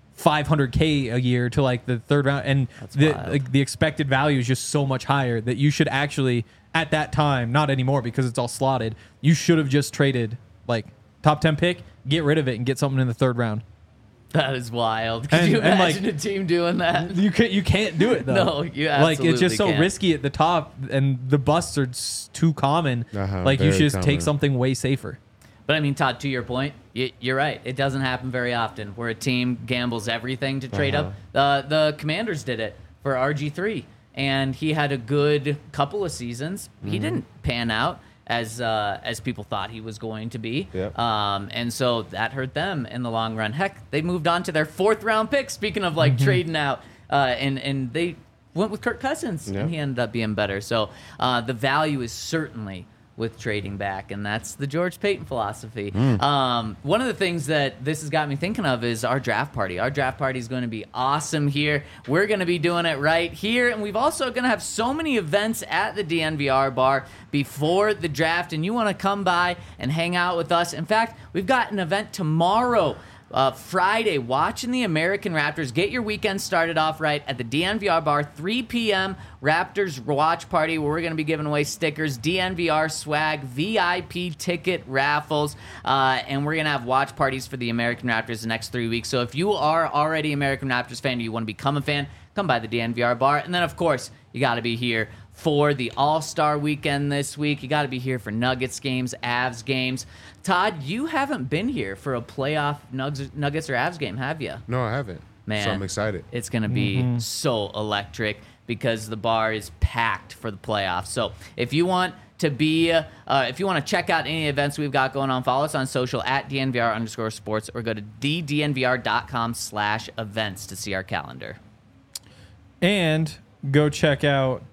$500K a year to the 3rd round, and the expected value is just so much higher that you should actually at that time, not anymore because it's all slotted, you should have just traded top 10 pick, get rid of it and get something in the 3rd round. That is wild. Could you imagine a team doing that? You can't do it though. No, you absolutely it's just so can't. Risky at the top, and the busts are too common. You should just take something way safer. But I mean, Todd, to your point, you're right. It doesn't happen very often where a team gambles everything to trade up. The Commanders did it for RG3, and he had a good couple of seasons. He didn't pan out as people thought he was going to be. Yep. And so that hurt them in the long run. Heck, they moved on to their 4th round pick, speaking of trading out, and they went with Kirk Cousins, and he ended up being better. So the value is certainly with trading back, and that's the George Payton philosophy. One of the things that this has got me thinking of is our draft party. Our draft party is going to be awesome here. We're going to be doing it right here, and we've also going to have so many events at the DNVR bar before the draft, and you want to come by and hang out with us. In fact, we've got an event tomorrow, Friday, watching the American Raptors. Get your weekend started off right at the DNVR bar, 3 p.m. Raptors watch party, where we're going to be giving away stickers, DNVR swag, VIP ticket raffles, and we're going to have watch parties for the American Raptors the next 3 weeks. So if you are already an American Raptors fan or you want to become a fan, come by the DNVR bar. And then, of course, you got to be here for the All-Star weekend this week. You got to be here for Nuggets games, Avs games. Todd, you haven't been here for a playoff Nuggets or Avs game, have you? No, I haven't. Man, so I'm excited. It's going to be so electric because the bar is packed for the playoffs. So if you want to check out any events we've got going on, follow us on social at DNVR_sports or go to thednvr.com/events to see our calendar. And go check out,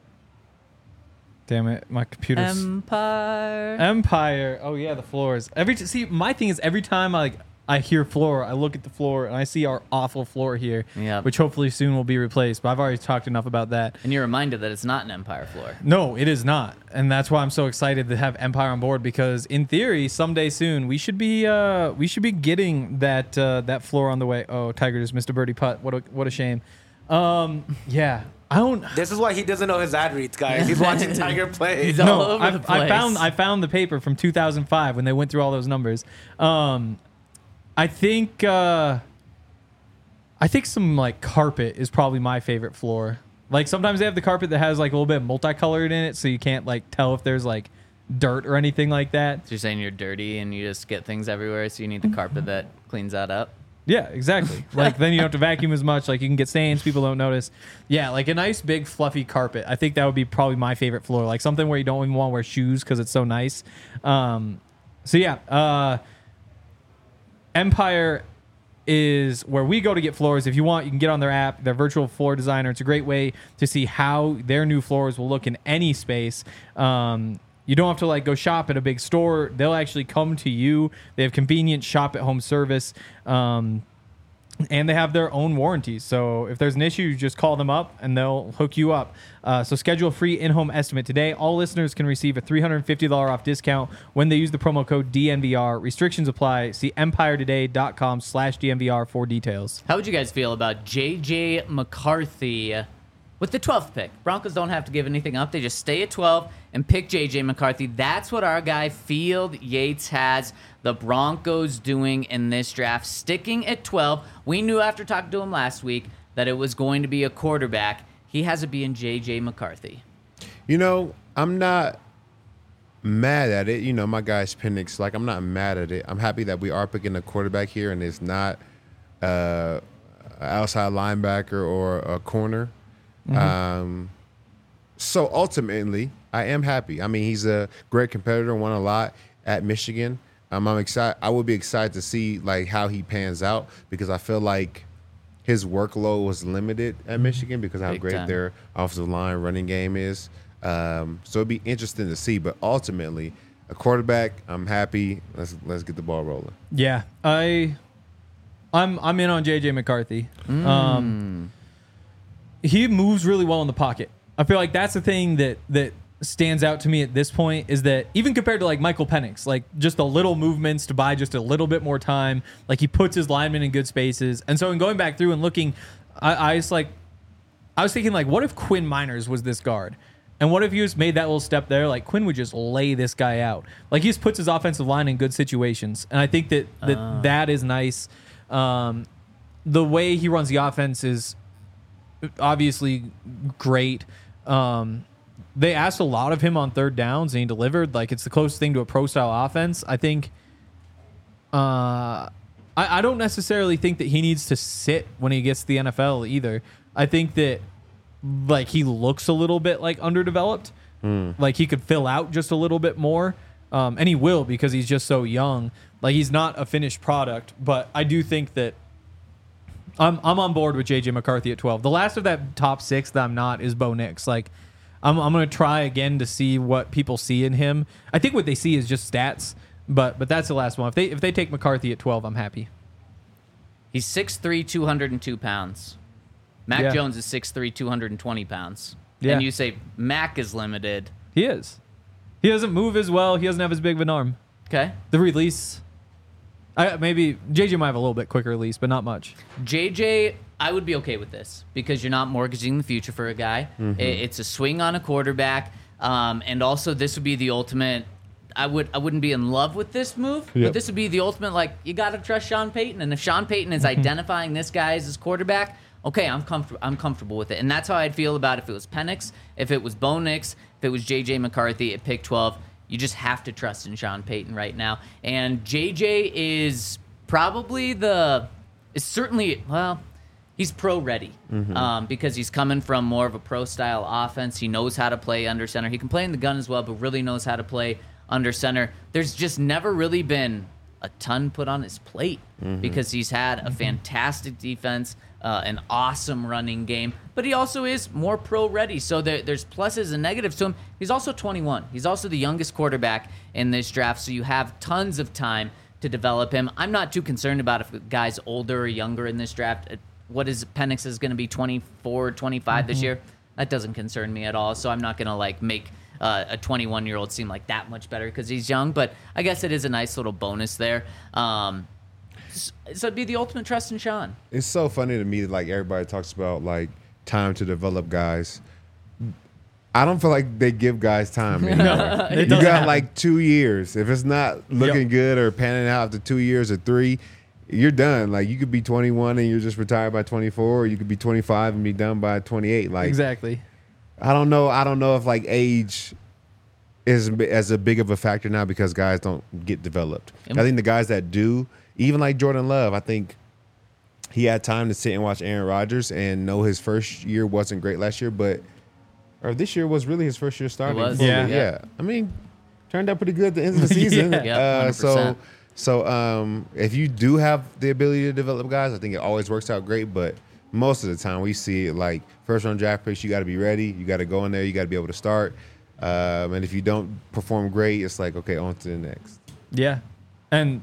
damn it, my computer's Empire. Oh yeah, the floors. My thing is every time I hear floor, I look at the floor, and I see our awful floor here, Yep. which hopefully soon will be replaced. But I've already talked enough about that. And you're reminded that it's not an Empire floor. No, it is not, and that's why I'm so excited to have Empire on board, because in theory, someday soon we should be getting that floor on the way. Oh, Tiger just missed a birdie putt. What a shame. Yeah, I don't. This is why he doesn't know his ad reads, guys. He's watching Tiger play. He's all No, over the place. I found the paper from 2005 when they went through all those numbers. I think some like carpet is probably my favorite floor. Like sometimes they have the carpet that has like a little bit multicolored in it, so you can't like tell if there's like dirt or anything like that. So you're saying you're dirty and you just get things everywhere, so you need the carpet that cleans that up? Yeah, exactly. Like then you don't have to vacuum as much. Like you can get stains, people don't notice. Yeah, like a nice big fluffy carpet. I think that would be probably my favorite floor. Like something where you don't even want to wear shoes because it's so nice. Empire is where we go to get floors. If you want, you can get on their app, their virtual floor designer. It's a great way to see how their new floors will look in any space. You don't have to like go shop at a big store. They'll actually come to you. They have convenient shop at home service. And they have their own warranties. So if there's an issue, you just call them up and they'll hook you up. So schedule a free in-home estimate today. All listeners can receive a $350 off discount when they use the promo code DNVR. Restrictions apply. See empiretoday.com/DNVR for details. How would you guys feel about J.J. McCarthy with the 12th pick? Broncos don't have to give anything up. They just stay at 12 and pick J.J. McCarthy. That's what our guy Field Yates has the Broncos doing in this draft, sticking at 12. We knew after talking to him last week that it was going to be a quarterback. He has it being J.J. McCarthy. You know, I'm not mad at it. You know, my guy's Penix. Like, I'm not mad at it. I'm happy that we are picking a quarterback here and it's not an outside linebacker or a corner. So ultimately, I am happy. I mean, he's a great competitor, won a lot at Michigan. I'm excited. I would be excited to see like how he pans out because I feel like his workload was limited at Michigan because of how Big great time. their offensive line running game is. So it'd be interesting to see. But ultimately, a quarterback, I'm happy. Let's get the ball rolling. Yeah, I'm in on J.J. McCarthy. He moves really well in the pocket. I feel like that's the thing that stands out to me at this point is that even compared to like Michael Penix, like just the little movements to buy just a little bit more time, like he puts his linemen in good spaces. And so in going back through and looking, I was thinking like, what if Quinn Miners was this guard? And what if he just made that little step there? Like Quinn would just lay this guy out. Like he just puts his offensive line in good situations. And I think that is nice. The way he runs the offense is obviously great. They asked a lot of him on third downs and he delivered. Like it's the closest thing to a pro style offense. I think I don't necessarily think that he needs to sit when he gets to the NFL either. I think that like he looks a little bit like underdeveloped. Like he could fill out just a little bit more. And he will because he's just so young. Like he's not a finished product, but I do think that I'm on board with J.J. McCarthy at 12. The last of that top 6 that I'm not is Bo Nix. Like I'm going to try again to see what people see in him. I think what they see is just stats, but that's the last one. If they take McCarthy at 12, I'm happy. He's 6'3", 202 pounds. Mac Yeah. Jones is 6'3", 220 pounds. Yeah. And you say Mac is limited. He is. He doesn't move as well. He doesn't have as big of an arm. Okay. The release, maybe JJ might have a little bit quicker release, but not much. JJ, I would be okay with this because you're not mortgaging the future for a guy. It's a swing on a quarterback, and also this would be the ultimate. I wouldn't be in love with this move, but this would be the ultimate. Like you got to trust Sean Payton, and if Sean Payton is identifying this guy as his quarterback, okay, I'm comfortable with it, and that's how I'd feel about if it was Penix, if it was Bo Nix, if it was JJ McCarthy at pick 12. You just have to trust in Sean Payton right now, and JJ is probably he's pro ready because he's coming from more of a pro style offense. He knows how to play under center. He can play in the gun as well, but really knows how to play under center. There's just never really been a ton put on his plate because he's had a fantastic defense, an awesome running game, but he also is more pro ready. So there's pluses and negatives to him. He's also 21. He's also the youngest quarterback in this draft, so you have tons of time to develop him. I'm not too concerned about if a guy's older or younger in this draft. What is Penix is going to be 24, 25 this year? That doesn't concern me at all. So I'm not going to like make a 21-year-old seem like that much better because he's young. But I guess it is a nice little bonus there. So it'd be the ultimate trust in Sean. It's so funny to me that like everybody talks about like time to develop guys. I don't feel like they give guys time anymore. You got like 2 years. If it's not looking good or panning out after 2 years or 3, you're done. Like you could be 21 and you're just retired by 24, or you could be 25 and be done by 28. Like Exactly. I don't know if like age is as a big of a factor now because guys don't get developed. I think the guys that do, even like Jordan Love, I think he had time to sit and watch Aaron Rodgers and know his first year wasn't great last year, or this year was really his first year starting. It was. Yeah. I mean, turned out pretty good at the end of the season. Yeah, 100%. So if you do have the ability to develop guys, I think it always works out great. But most of the time we see it like first round draft picks, you got to be ready. You got to go in there. You got to be able to start. And if you don't perform great, it's like, okay, on to the next. Yeah. And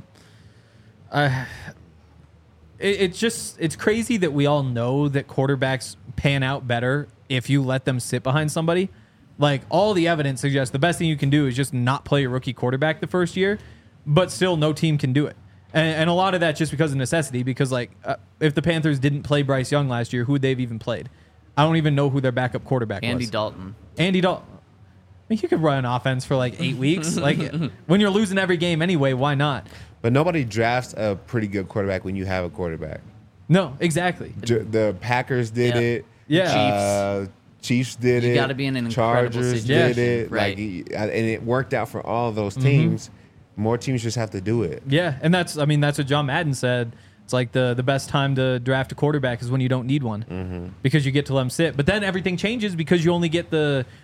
it's crazy that we all know that quarterbacks pan out better if you let them sit behind somebody. Like all the evidence suggests the best thing you can do is just not play a rookie quarterback the first year, but still no team can do it. And a lot of that just because of necessity, because like if the Panthers didn't play Bryce Young last year, who would they've even played? I don't even know who their backup quarterback was. Andy Dalton. Andy Dalton. I mean, you could run an offense for like 8 weeks. Like when you're losing every game anyway, why not? But nobody drafts a pretty good quarterback when you have a quarterback. No, exactly. The Packers did it. Yeah. Chiefs did it. You got to be in an incredible Chargers situation. did it. Right. Like, and it worked out for all of those teams. More teams just have to do it. Yeah, and that's what John Madden said. It's like the best time to draft a quarterback is when you don't need one because you get to let them sit. But then everything changes because you only get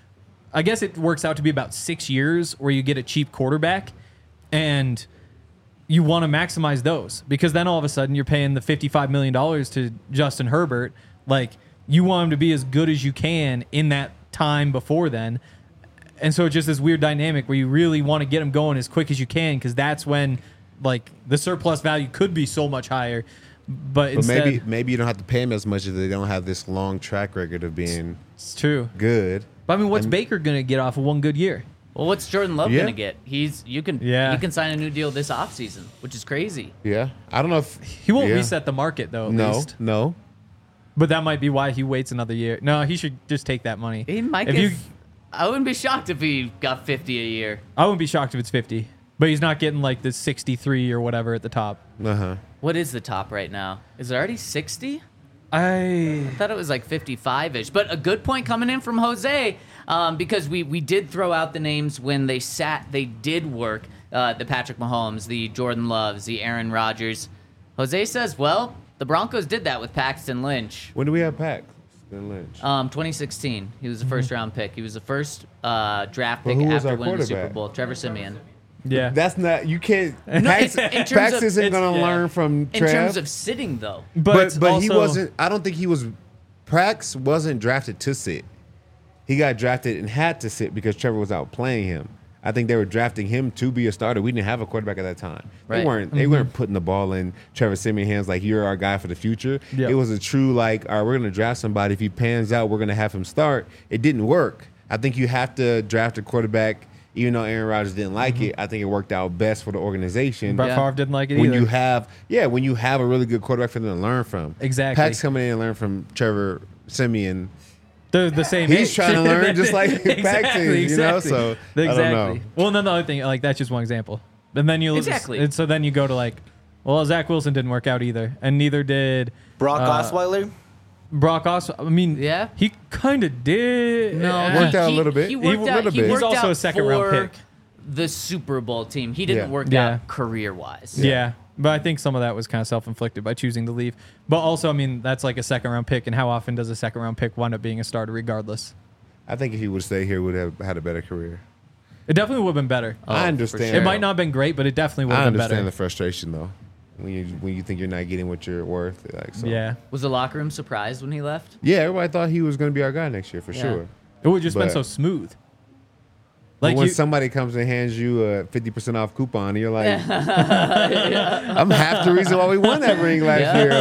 I guess it works out to be about 6 years where you get a cheap quarterback, and you want to maximize those because then all of a sudden you're paying the $55 million to Justin Herbert. Like you want him to be as good as you can in that time before then. And so it's just this weird dynamic where you really want to get him going as quick as you can because that's when like the surplus value could be so much higher. But instead, maybe you don't have to pay him as much if they don't have this long track record of being it's true. good. But I mean, what's Baker going to get off of one good year? Well, what's Jordan Love going to get? You can sign a new deal this offseason, which is crazy. Yeah. I don't know if He won't reset the market though, at least. No. But that might be why he waits another year. No, he should just take that money. He might I wouldn't be shocked if he got 50 a year. I wouldn't be shocked if it's 50. But he's not getting like the 63 or whatever at the top. Uh-huh. What is the top right now? Is it already 60? I thought it was like 55-ish. But a good point coming in from Jose, because we did throw out the names when they did work, the Patrick Mahomes, the Jordan Loves, the Aaron Rodgers. Jose says, well, the Broncos did that with Paxton Lynch. When do we have Paxton Lynch? 2016. He was the first round pick. He was the first draft pick who was after our winning the Super quarterback? Bowl. Trevor Siemian. yeah. That's not, you can't, in Pax terms of- isn't going to learn from In Trev. terms of sitting, though. But also, he wasn't, I don't think he was, Prax wasn't drafted to sit. He got drafted and had to sit because Trevor was out playing him. I think they were drafting him to be a starter. We didn't have a quarterback at that time. Right. They weren't putting the ball in Trevor Siemian's hands like you're our guy for the future. Yep. It was a true like, all right, we're going to draft somebody. If he pans out, we're going to have him start. It didn't work. I think you have to draft a quarterback. Even though Aaron Rodgers didn't like it, I think it worked out best for the organization. Brett Yeah. Favre didn't like it When either. when you have a really good quarterback for them to learn from. Exactly. Pax coming in and learn from Trevor Siemian. They're the same He's age. trying to learn just like Pax is, you know? So I don't know. Well, and then the other thing, like that's just one example. And then you Exactly. and so then you go to like, well, Zach Wilson didn't work out either, and neither did Brock Osweiler. Brock Osweiler. I mean, Yeah. he kind of did. No, Worked out a little bit. He worked out. He He's worked also out a second-round for pick. the Super Bowl team. He didn't Yeah. work Yeah. out career-wise. Yeah. But I think some of that was kind of self-inflicted by choosing to leave. But also, I mean, that's like a second-round pick, and how often does a second-round pick wind up being a starter regardless? I think if he would stay here, he would have had a better career. It definitely would have been better. I for understand. sure. It might not have been great, but it definitely would I have been understand better. the frustration though. When you think you're not getting what you're worth, like so. Yeah. Was the locker room surprised when he left? Yeah, everybody thought he was going to be our guy next year for Yeah. sure. It would have just been But- so smooth. But when you- somebody comes and hands you a 50% off coupon, you're like, I'm half the reason why we won that ring last year.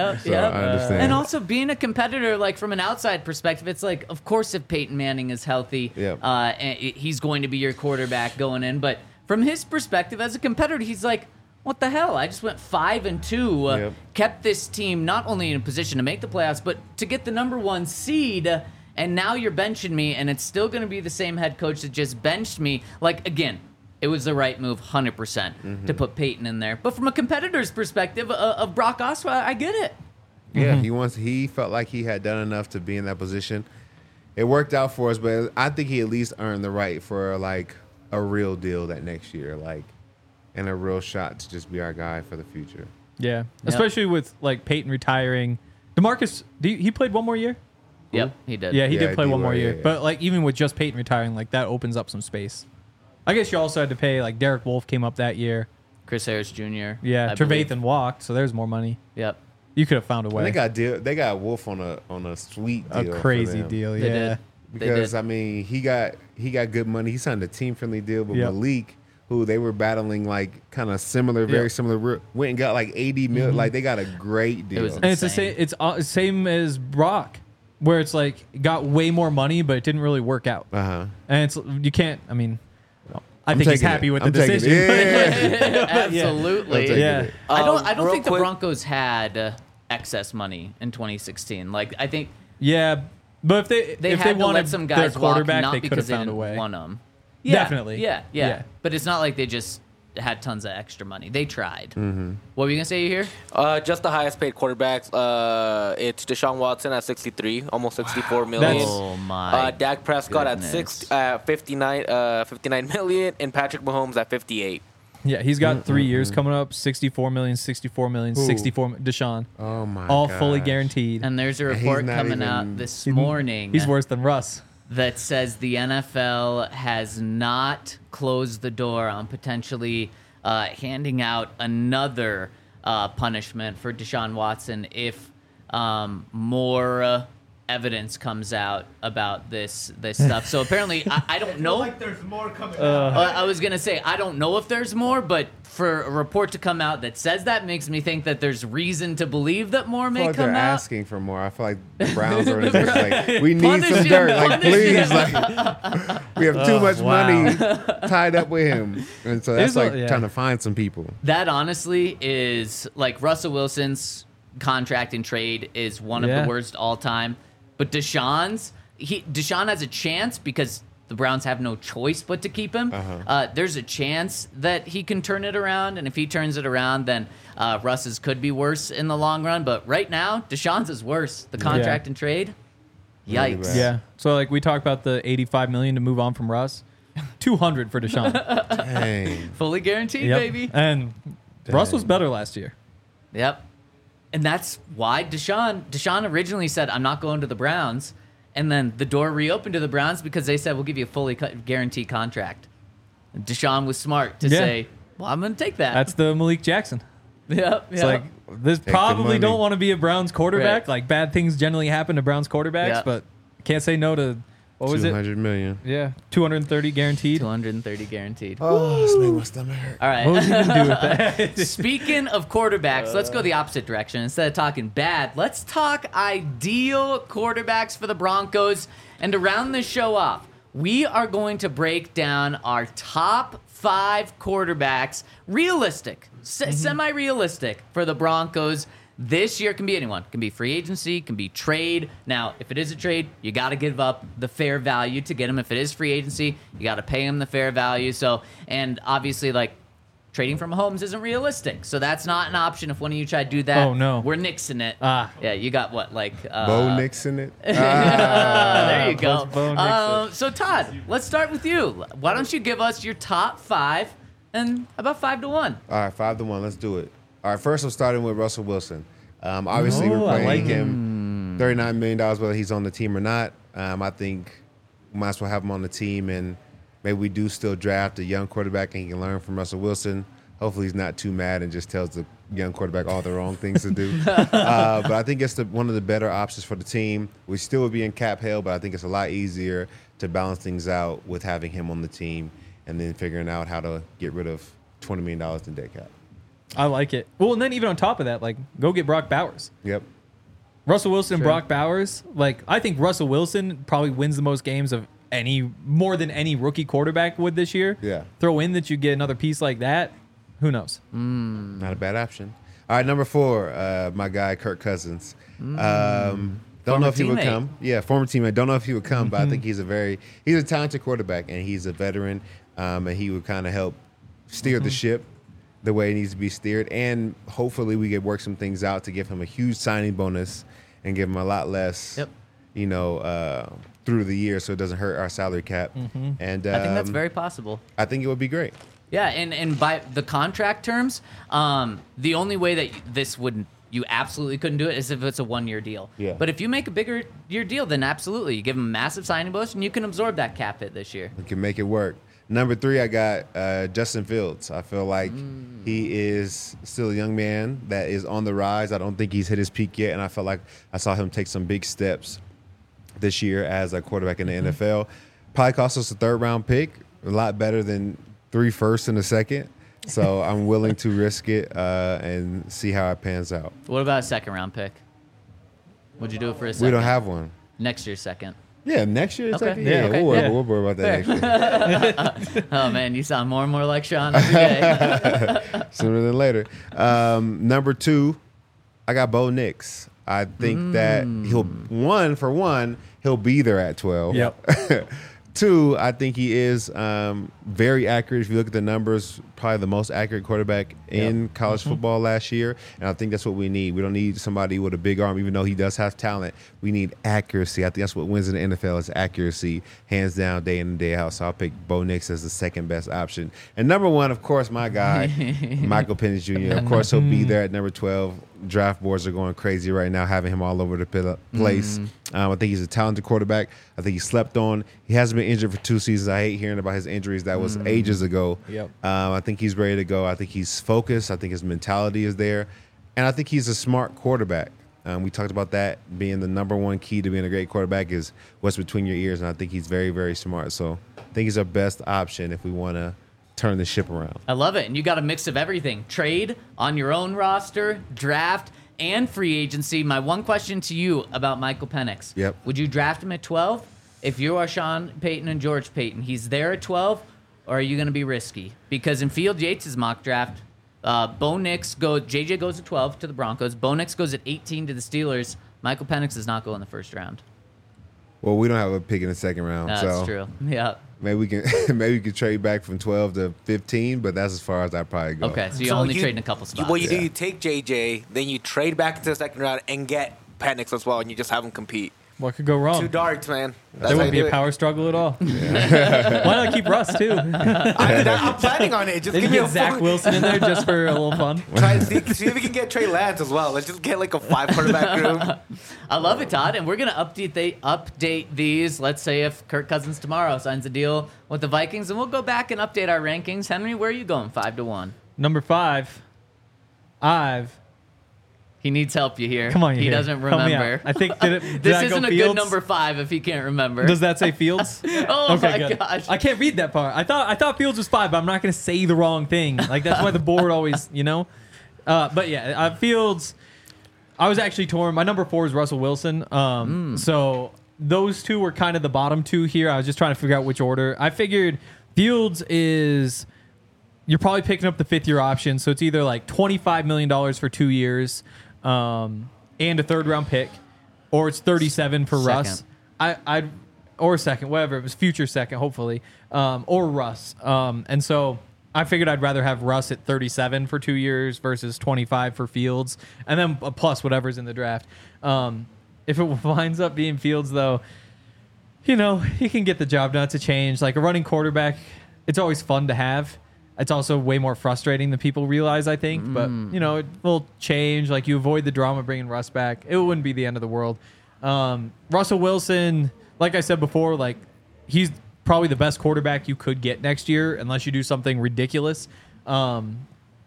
I understand. And also being a competitor, like from an outside perspective, it's like, of course, if Peyton Manning is healthy, he's going to be your quarterback going in. But from his perspective as a competitor, he's like, what the hell? I just went 5-2, kept this team not only in a position to make the playoffs, but to get the number 1 seed. And now you're benching me, and it's still going to be the same head coach that just benched me. Like, again, it was the right move, 100%, to put Peyton in there. But from a competitor's perspective of Brock Osweiler, I get it. Yeah, he felt like he had done enough to be in that position. It worked out for us, but I think he at least earned the right for like a real deal that next year, like, and a real shot to just be our guy for the future. Yeah, especially with like Peyton retiring. DeMarcus, he played one more year? Yep, he did. Yeah, he did play one more D-Wade, year. yeah. But like even with just Peyton retiring, like that opens up some space. I guess you also had to pay like Derek Wolfe came up that year. Chris Harris Jr. Yeah, I believe. Trevathan walked, so there's more money. Yep. You could have found a way. They got Wolf on a sweet a deal, crazy for them. deal. They Yeah. did. Because They did. I mean he got good money. He signed a team friendly deal with Yep. Malik, who they were battling like kind of similar, very similar. Went and got like 80 million. Like they got a great deal. was And it's the insane. same. It's same as Brock, where it's like got way more money, but it didn't really work out. And it's you can't. I mean, I think he's taking happy it. with I'm the taking decision. it. Yeah. Absolutely. I'm taking Yeah. it. I don't Real think the quick- Broncos had excess money in 2016. Like I think Yeah, but if they if had they to wanted let some guys their walk, quarterback, not they could have because they found a didn't way. want them. Definitely. Yeah. But it's not like they just had tons of extra money. They tried. Mm-hmm. What were you gonna say here? Just the highest paid quarterbacks. It's Deshaun Watson at 63, almost 64 million. That's- Oh my. Dak Prescott goodness. at 59 million, and Patrick Mahomes at 58. Yeah, he's got 3 years coming up. 64 million, 64 million, 64. Deshaun, Oh my all gosh. fully guaranteed. And there's a And he's report not coming even- out this morning. He's worse than Russ. That says the NFL has not closed the door on potentially handing out another punishment for Deshaun Watson if more evidence comes out about this stuff. So apparently, I don't know. Like there's more coming. I was gonna say I don't know if there's more, but for a report to come out that says that makes me think that there's reason to believe that more I may feel like come they're out. asking for more. I feel like the Browns organization like we need Punish some him, dirt. Like punish please, him. like we have too much wow. money tied up with him, and so that's There's like yeah. trying to find some people. That honestly is like Russell Wilson's contract and trade is one of Yeah. the worst all time. But Deshaun has a chance because the Browns have no choice but to keep him. There's a chance that he can turn it around, and if he turns it around, then Russ's could be worse in the long run. But right now, Deshaun's is worse. The contract and trade, Really yikes. bad. Yeah. So like we talked about the 85 million to move on from Russ, 200 for Deshaun. Dang. Fully guaranteed, Yep. baby. And Russ was better last year. Yep. And that's why Deshaun originally said, I'm not going to the Browns. And then the door reopened to the Browns because they said, we'll give you a fully guaranteed contract. And Deshaun was smart to Yeah. say, well, I'm going to take that. That's the Malik Jackson. Yep. It's like this the probably money. don't want to be a Browns quarterback. Right. Like bad things generally happen to Browns quarterbacks, Yeah. but can't say no to what was it? 200 million. Yeah, 230 guaranteed. 230 guaranteed. Oh, this made my stomach hurt. All right. What was he gonna do with that? Speaking of quarterbacks, let's go the opposite direction. Instead of talking bad, let's talk ideal quarterbacks for the Broncos. And to round this show off, we are going to break down our top 5 quarterbacks, realistic, semi-realistic for the Broncos. This year can be anyone. Can be free agency, can be trade. Now, if it is a trade, you got to give up the fair value to get him. If it is free agency, you got to pay him the fair value. So, and obviously, like, trading from Mahomes isn't realistic. So that's not an option if one of you try to do that. Oh, no. We're nixing it. Ah. Yeah, you got what, like... Bo Nixon it. there you go. Bo Nixon. So, Todd, let's start with you. Why don't you give us your top 5 and about 5 to 1? All right, 5-1. Let's do it. All right, first I'm starting with Russell Wilson. Obviously, Oh, we're I paying like him $39 million, whether he's on the team or not. I think we might as well have him on the team, and maybe we do still draft a young quarterback and he can learn from Russell Wilson. Hopefully he's not too mad and just tells the young quarterback all the wrong things to do. But I think it's one of the better options for the team. We still would be in cap hell, but I think it's a lot easier to balance things out with having him on the team and then figuring out how to get rid of $20 million in dead cap. I like it. Well, and then even on top of that, like, go get Brock Bowers. Yep. Russell Wilson and Brock Bowers. Like, I think Russell Wilson probably wins the most games of more than any rookie quarterback would this year. Yeah. Throw in that you get another piece like that. Who knows? Not a bad option. All right, number 4, my guy Kirk Cousins. Don't know if he would come. Yeah, former teammate. Don't know if he would come, but I think he's a talented quarterback, and he's a veteran, and he would kind of help steer the ship the way it needs to be steered. And hopefully we could work some things out to give him a huge signing bonus and give him a lot less, through the year, so it doesn't hurt our salary cap. And I think that's very possible. I think it would be great. Yeah, and by the contract terms, the only way that you absolutely couldn't do it is if it's a 1-year deal. Yeah. But if you make a bigger year deal, then absolutely. You give him a massive signing bonus, and you can absorb that cap hit this year. We can make it work. Number 3, I got Justin Fields. I feel like he is still a young man that is on the rise. I don't think he's hit his peak yet, and I felt like I saw him take some big steps this year as a quarterback in the NFL. Probably cost us a 3rd-round pick, a lot better than 3 firsts and a 2nd. So I'm willing to risk it and see how it pans out. What about a 2nd-round pick? Would you do it for a 2nd? We don't have one. Next year's 2nd. Yeah, next year. Okay. Second? Yeah, okay. We'll worry about that next year. Oh, man, you sound more and more like Sean every day. Sooner than later. Number 2, I got Bo Nix. I think that he'll be there at 12. Yep. 2, I think he is very accurate. If you look at the numbers, probably the most accurate quarterback in college football last year. And I think that's what we need. We don't need somebody with a big arm, even though he does have talent. We need accuracy. I think that's what wins in the NFL is accuracy, hands down, day in and day out. So I'll pick Bo Nix as the 2nd best option. And number 1, of course, my guy, Michael Penix Jr. Of course, he'll be there at number 12. Draft boards are going crazy right now, having him all over the place. I think he's a talented quarterback. I think he slept on. He hasn't been injured for 2 seasons. I hate hearing about his injuries. That was ages ago. Yep. I think he's ready to go. I think he's focused. I think his mentality is there. And I think he's a smart quarterback. We talked about that being the number 1 key to being a great quarterback is what's between your ears. And I think he's very, very smart. So I think he's our best option if we want to turn the ship around. I love it. And you got a mix of everything. Trade on your own roster, draft, and free agency. My one question to you about Michael Penix. Yep. Would you draft him at 12? If you are Sean Payton and George Payton, he's there at 12, or are you going to be risky? Because in Field Yates' mock draft, Bo Nix JJ goes at 12 to the Broncos. Bo Nix goes at 18 to the Steelers. Michael Penix does not go in the 1st round. Well, we don't have a pick in the 2nd round. That's so true. Yeah. Maybe we can trade back from 12 to 15, but that's as far as I probably go. Okay, so you're only trading a couple spots. What you do, you take JJ, then you trade back into the 2nd round and get Penix as well, and you just have him compete. What could go wrong? 2 darts, man. There wouldn't be a power struggle at all. Why not keep Russ, too? I'm planning on it. Just Then give you me get Zach Wilson in there just for a little fun. Try to see if we can get Trey Lance as well. Let's just get like a 5 quarterback room. I love it, Todd. And we're going to update these. Let's say if Kirk Cousins tomorrow signs a deal with the Vikings, and we'll go back and update our rankings. Henry, where are you going? 5-1. Number 5, He needs help. You hear? Come on, you he hear. doesn't Help me remember. out. I think did This I go isn't a Fields? good number 5 if he can't remember. Does that say Fields? Oh my good. gosh! I can't read that part. I thought Fields was 5, but I'm not going to say the wrong thing. Like that's why the board always, But yeah, Fields. I was actually torn. My number 4 is Russell Wilson. So those 2 were kind of the bottom 2 here. I was just trying to figure out which order. I figured Fields is. You're probably picking up the 5th-year option, so it's either like $25 million for 2 years. And a 3rd-round pick, or it's 37 for Russ. Or 2nd, whatever. It was future 2nd, hopefully, or Russ. And so I figured I'd rather have Russ at 37 for 2 years versus 25 for Fields, and then plus whatever's in the draft. If it winds up being Fields, though, he can get the job done. It's a change. Like a running quarterback, it's always fun to have. It's also way more frustrating than people realize, I think. But, it will change. Like, you avoid the drama bringing Russ back. It wouldn't be the end of the world. Russell Wilson, like I said before, like he's probably the best quarterback you could get next year unless you do something ridiculous. 3rd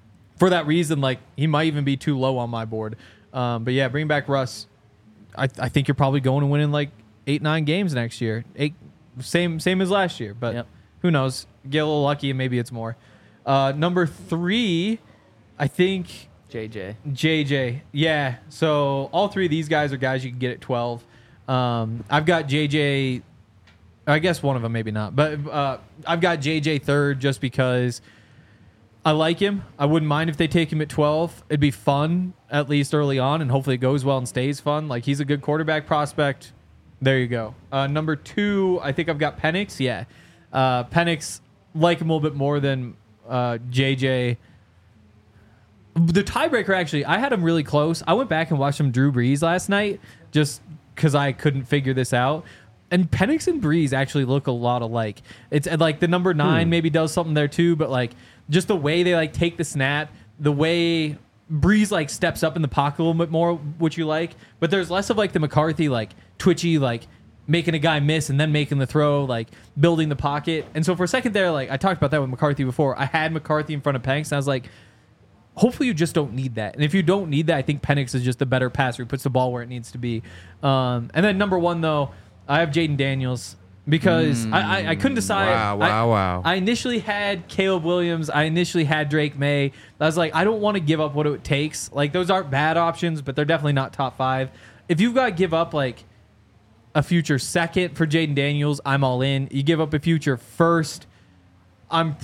for that reason, like he might even be too low on my board. But yeah, bring back Russ. I think you're probably going to win in like 8-9 games next year. Same as last year, but who knows? Get a little lucky and maybe it's more. Number 3, I think JJ. Yeah. So all 3 of these guys are guys you can get at 12. I've got JJ. I guess one of them, maybe not, but I've got JJ third just because I like him. I wouldn't mind if they take him at 12. It'd be fun, at least early on, and hopefully it goes well and stays fun. Like, he's a good quarterback prospect. There you go. Number 2, I think I've got Penix. Yeah. Penix, like him a little bit more than JJ. The tiebreaker, actually, I had him really close. I went back and watched some Drew Brees last night just because I couldn't figure this out. And Penix and Brees actually look a lot alike. It's like the number 9 maybe does something there too, but like just the way they like take the snap, the way Brees like steps up in the pocket a little bit more, which you like. But there's less of like the McCarthy like twitchy like making a guy miss and then making the throw, like building the pocket. And so for a second there, like I talked about that with McCarthy before. I had McCarthy in front of Penix, and I was like, hopefully you just don't need that. And if you don't need that, I think Penix is just a better passer who puts the ball where it needs to be. And then number 1 though, I have Jaden Daniels because I couldn't decide. Wow. I initially had Caleb Williams. I initially had Drake May. I was like, I don't want to give up what it takes. Like, those aren't bad options, but they're definitely not top 5. If you've got to give up like a future second for Jaden Daniels, I'm all in. You give up a future first, I'm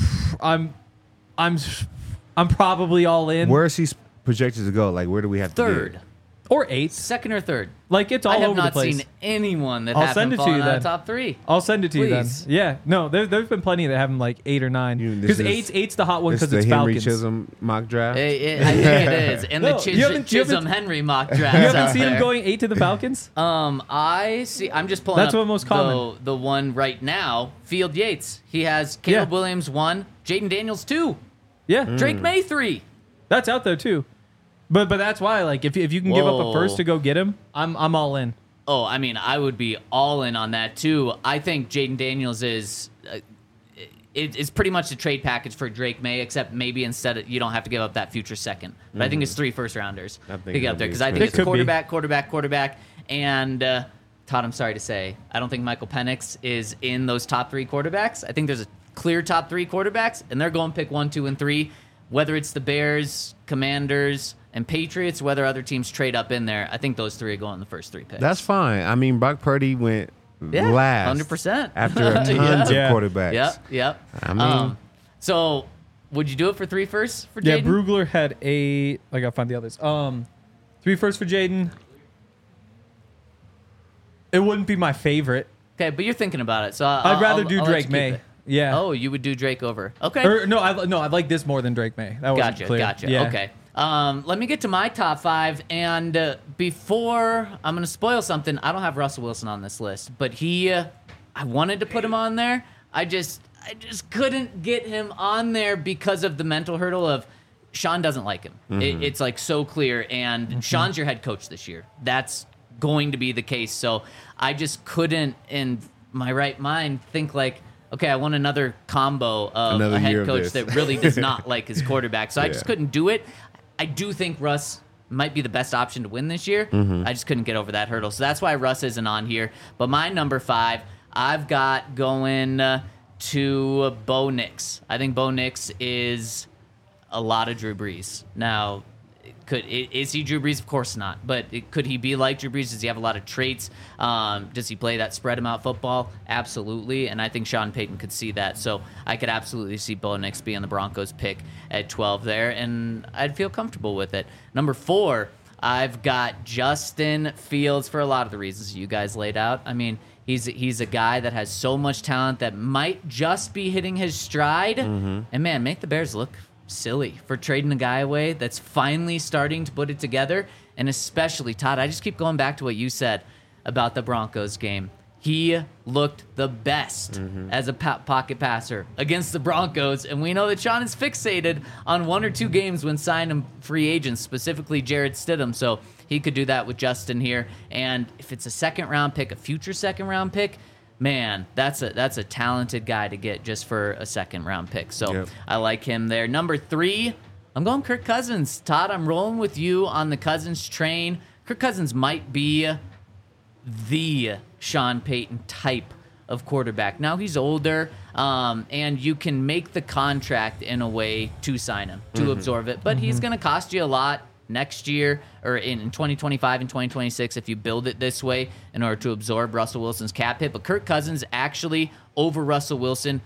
probably all in. Where is he projected to go? Like, where do we have to Third. get? Or 8th. Second or third. Like, it's all I have over the not place. seen anyone that I'll haven't send it to fallen you out then. of top 3. I'll send it to you then. Please. Yeah. No, there's been plenty that have them like 8 or 9. This Because is- eight's the hot one This because is it's the Henry Falcons. Chisholm mock draft. I think it is. And No, the you haven't- Chisholm Henry mock drafts You haven't out seen him there. going 8 to the Falcons? I see. I'm just pulling That's up what most common. the one right now. Field Yates. He has Caleb Yeah. Williams 1, Jaden Daniels 2, Yeah. Drake May 3. That's out there too. But that's why, like, if you can give up a Whoa. first to go get him, I'm all in. Oh, I mean, I would be all in on that too. I think Jaden Daniels is it's pretty much the trade package for Drake May, except maybe you don't have to give up that future second. But I think it's 3 first rounders I think to get that'd up there be because I think expensive. it's It could be. quarterback, and Todd, I'm sorry to say, I don't think Michael Penix is in those top 3 quarterbacks. I think there's a clear top 3 quarterbacks, and they're going to pick 1, 2, and 3. Whether it's the Bears, Commanders, and Patriots, whether other teams trade up in there, I think those 3 are going in the first 3 picks. That's fine. I mean, Brock Purdy went Yeah, last 100%. after tons of Yeah. quarterbacks. Yep. I mean- So would you do it for 3 firsts for Yeah, Jaden? Brugler had 8. I gotta find the others. 3 firsts for Jaden. It wouldn't be my favorite. Okay, but you're thinking about it, so I'd rather do I'll let Drake you keep May. it. Yeah. Oh, you would do Drake over. Okay. Or, no, I like this more than Drake May. That wasn't clear. Gotcha. Yeah. Okay. Let me get to my top 5, and before I'm going to spoil something, I don't have Russell Wilson on this list, but I wanted to put him on there. I just couldn't get him on there because of the mental hurdle of Sean doesn't like him. It's like so clear, and Sean's your head coach this year. That's going to be the case. So I just couldn't, in my right mind, think like, okay, I want another combo of Another a year head of coach this. that really does not like his quarterback. So I just Yeah. couldn't do it. I do think Russ might be the best option to win this year. I just couldn't get over that hurdle. So that's why Russ isn't on here. But my number 5, I've got going to Bo Nix. I think Bo Nix is a lot of Drew Brees. Now, is he Drew Brees? Of course not. But could he be like Drew Brees? Does he have a lot of traits? Does he play that spread him out football? Absolutely. And I think Sean Payton could see that. So I could absolutely see Bo Nix being the Broncos pick at 12 there. And I'd feel comfortable with it. Number 4, I've got Justin Fields for a lot of the reasons you guys laid out. I mean, he's a guy that has so much talent that might just be hitting his stride. And man, make the Bears look silly for trading a guy away that's finally starting to put it together. And especially, Todd, I just keep going back to what you said about the Broncos game. He looked the best as a pocket passer against the Broncos, and we know that Sean is fixated on 1 or 2 games when signing free agents, specifically Jarrett Stidham, so he could do that with Justin here. And if it's a second-round pick, a future second-round pick, man, that's a talented guy to get just for a second-round pick. So Yep. I like him there. Number 3, I'm going Kirk Cousins. Todd, I'm rolling with you on the Cousins train. Kirk Cousins might be the Sean Payton type of quarterback. Now he's older, and you can make the contract in a way to sign him, to absorb it. But he's going to cost you a lot next year or in 2025 and 2026 if you build it this way in order to absorb Russell Wilson's cap hit. But Kirk Cousins actually over Russell Wilson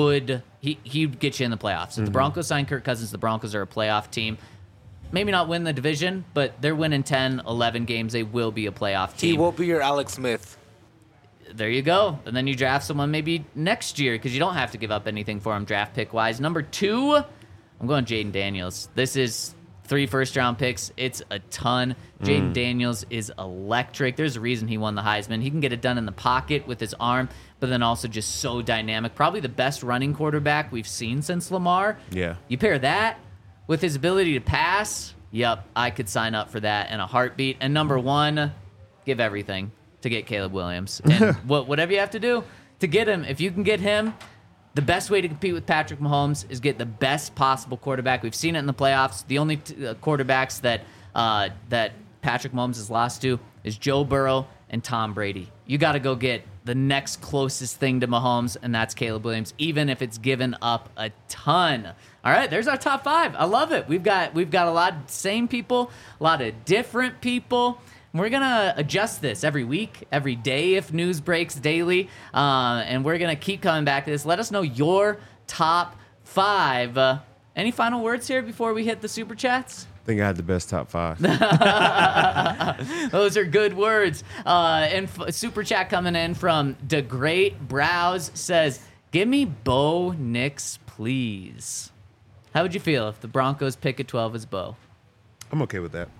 he'd get you in the playoffs. If the Broncos sign Kirk Cousins, the Broncos are a playoff team. Maybe not win the division, but they're winning 10, 11 games. They will be a playoff team. He will be your Alex Smith. There you go. And then you draft someone maybe next year because you don't have to give up anything for him draft pick-wise. Number 2, I'm going Jaden Daniels. This is 3 first-round picks. It's a ton. Jaden Daniels is electric. There's a reason he won the Heisman. He can get it done in the pocket with his arm, but then also just so dynamic. Probably the best running quarterback we've seen since Lamar. Yeah. You pair that with his ability to pass, yep, I could sign up for that in a heartbeat. And number 1, give everything to get Caleb Williams. And whatever you have to do to get him, if you can get him, the best way to compete with Patrick Mahomes is get the best possible quarterback. We've seen it in the playoffs. The only quarterbacks that Patrick Mahomes has lost to is Joe Burrow and Tom Brady. You got to go get the next closest thing to Mahomes, and that's Caleb Williams, even if it's given up a ton. All right, there's our top 5. I love it. We've got a lot of same people, a lot of different people. We're going to adjust this every week, every day if news breaks daily, and we're going to keep coming back to this. Let us know your top 5. Any final words here before we hit the Super Chats? I think I had the best top 5. Those are good words. And Super Chat coming in from The Great Browse says, give me Bo Nix, please. How would you feel if the Broncos pick at 12 as Bo? I'm okay with that.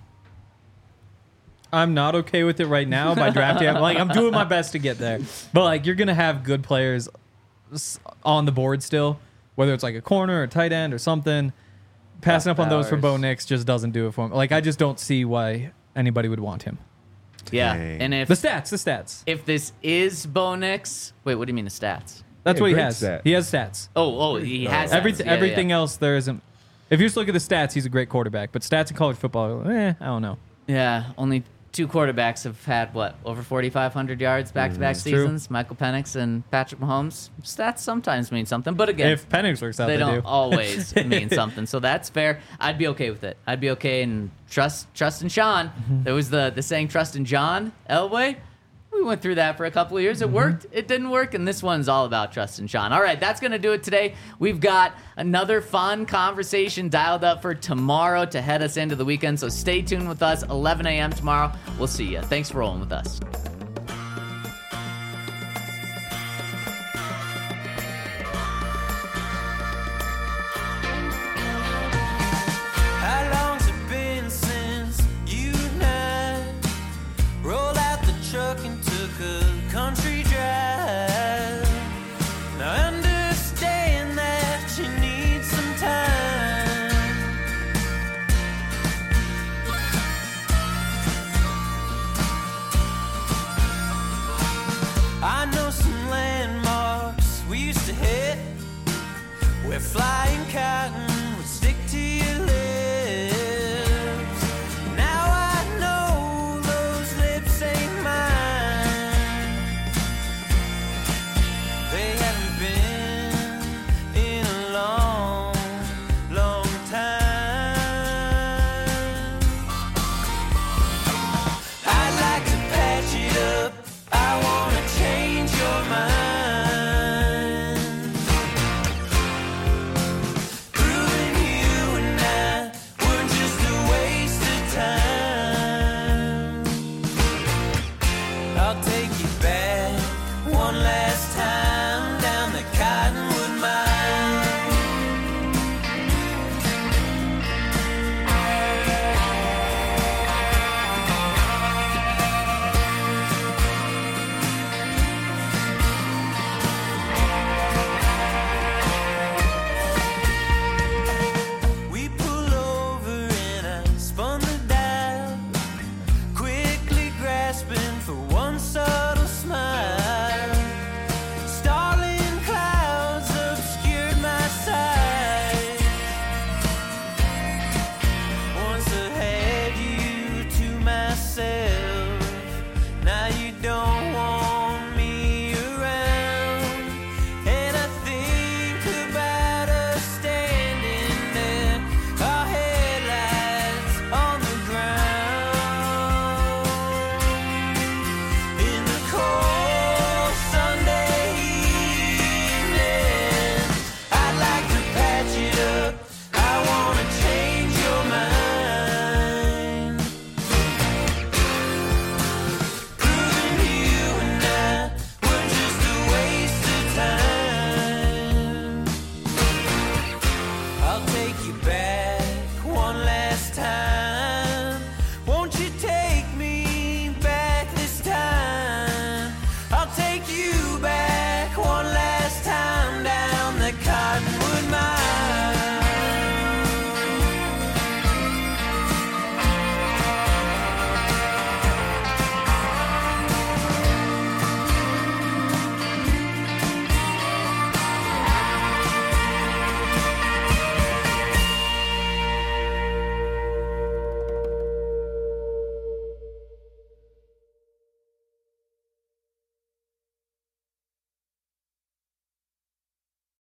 I'm not okay with it right now by drafting. I'm doing my best to get there. But, you're going to have good players on the board still, whether it's a corner or a tight end or something. Passing up on those for Bo Nix just doesn't do it for him. I just don't see why anybody would want him. Yeah. Dang. And if The stats. if this is Bo Nix, wait, what do you mean the stats? That's Yeah, what he great has. stats. He has stats. Oh, he has stats. Yeah, Everything yeah. else there isn't. If you just look at the stats, he's a great quarterback. But stats in college football, I don't know. Yeah, only 2 quarterbacks have had, over 4,500 yards back-to-back seasons? Michael Penix and Patrick Mahomes. Stats sometimes mean something, but again, If Penix works out, they they don't do. always mean something. So that's fair. I'd be okay with it. I'd be okay and trust in Sean. There was the saying, trust in John Elway. We went through that for a couple of years. It worked. It didn't work. And this one's all about trust in Sean. All right, that's going to do it today. We've got another fun conversation dialed up for tomorrow to head us into the weekend. So stay tuned with us, 11 a.m. tomorrow. We'll see you. Thanks for rolling with us.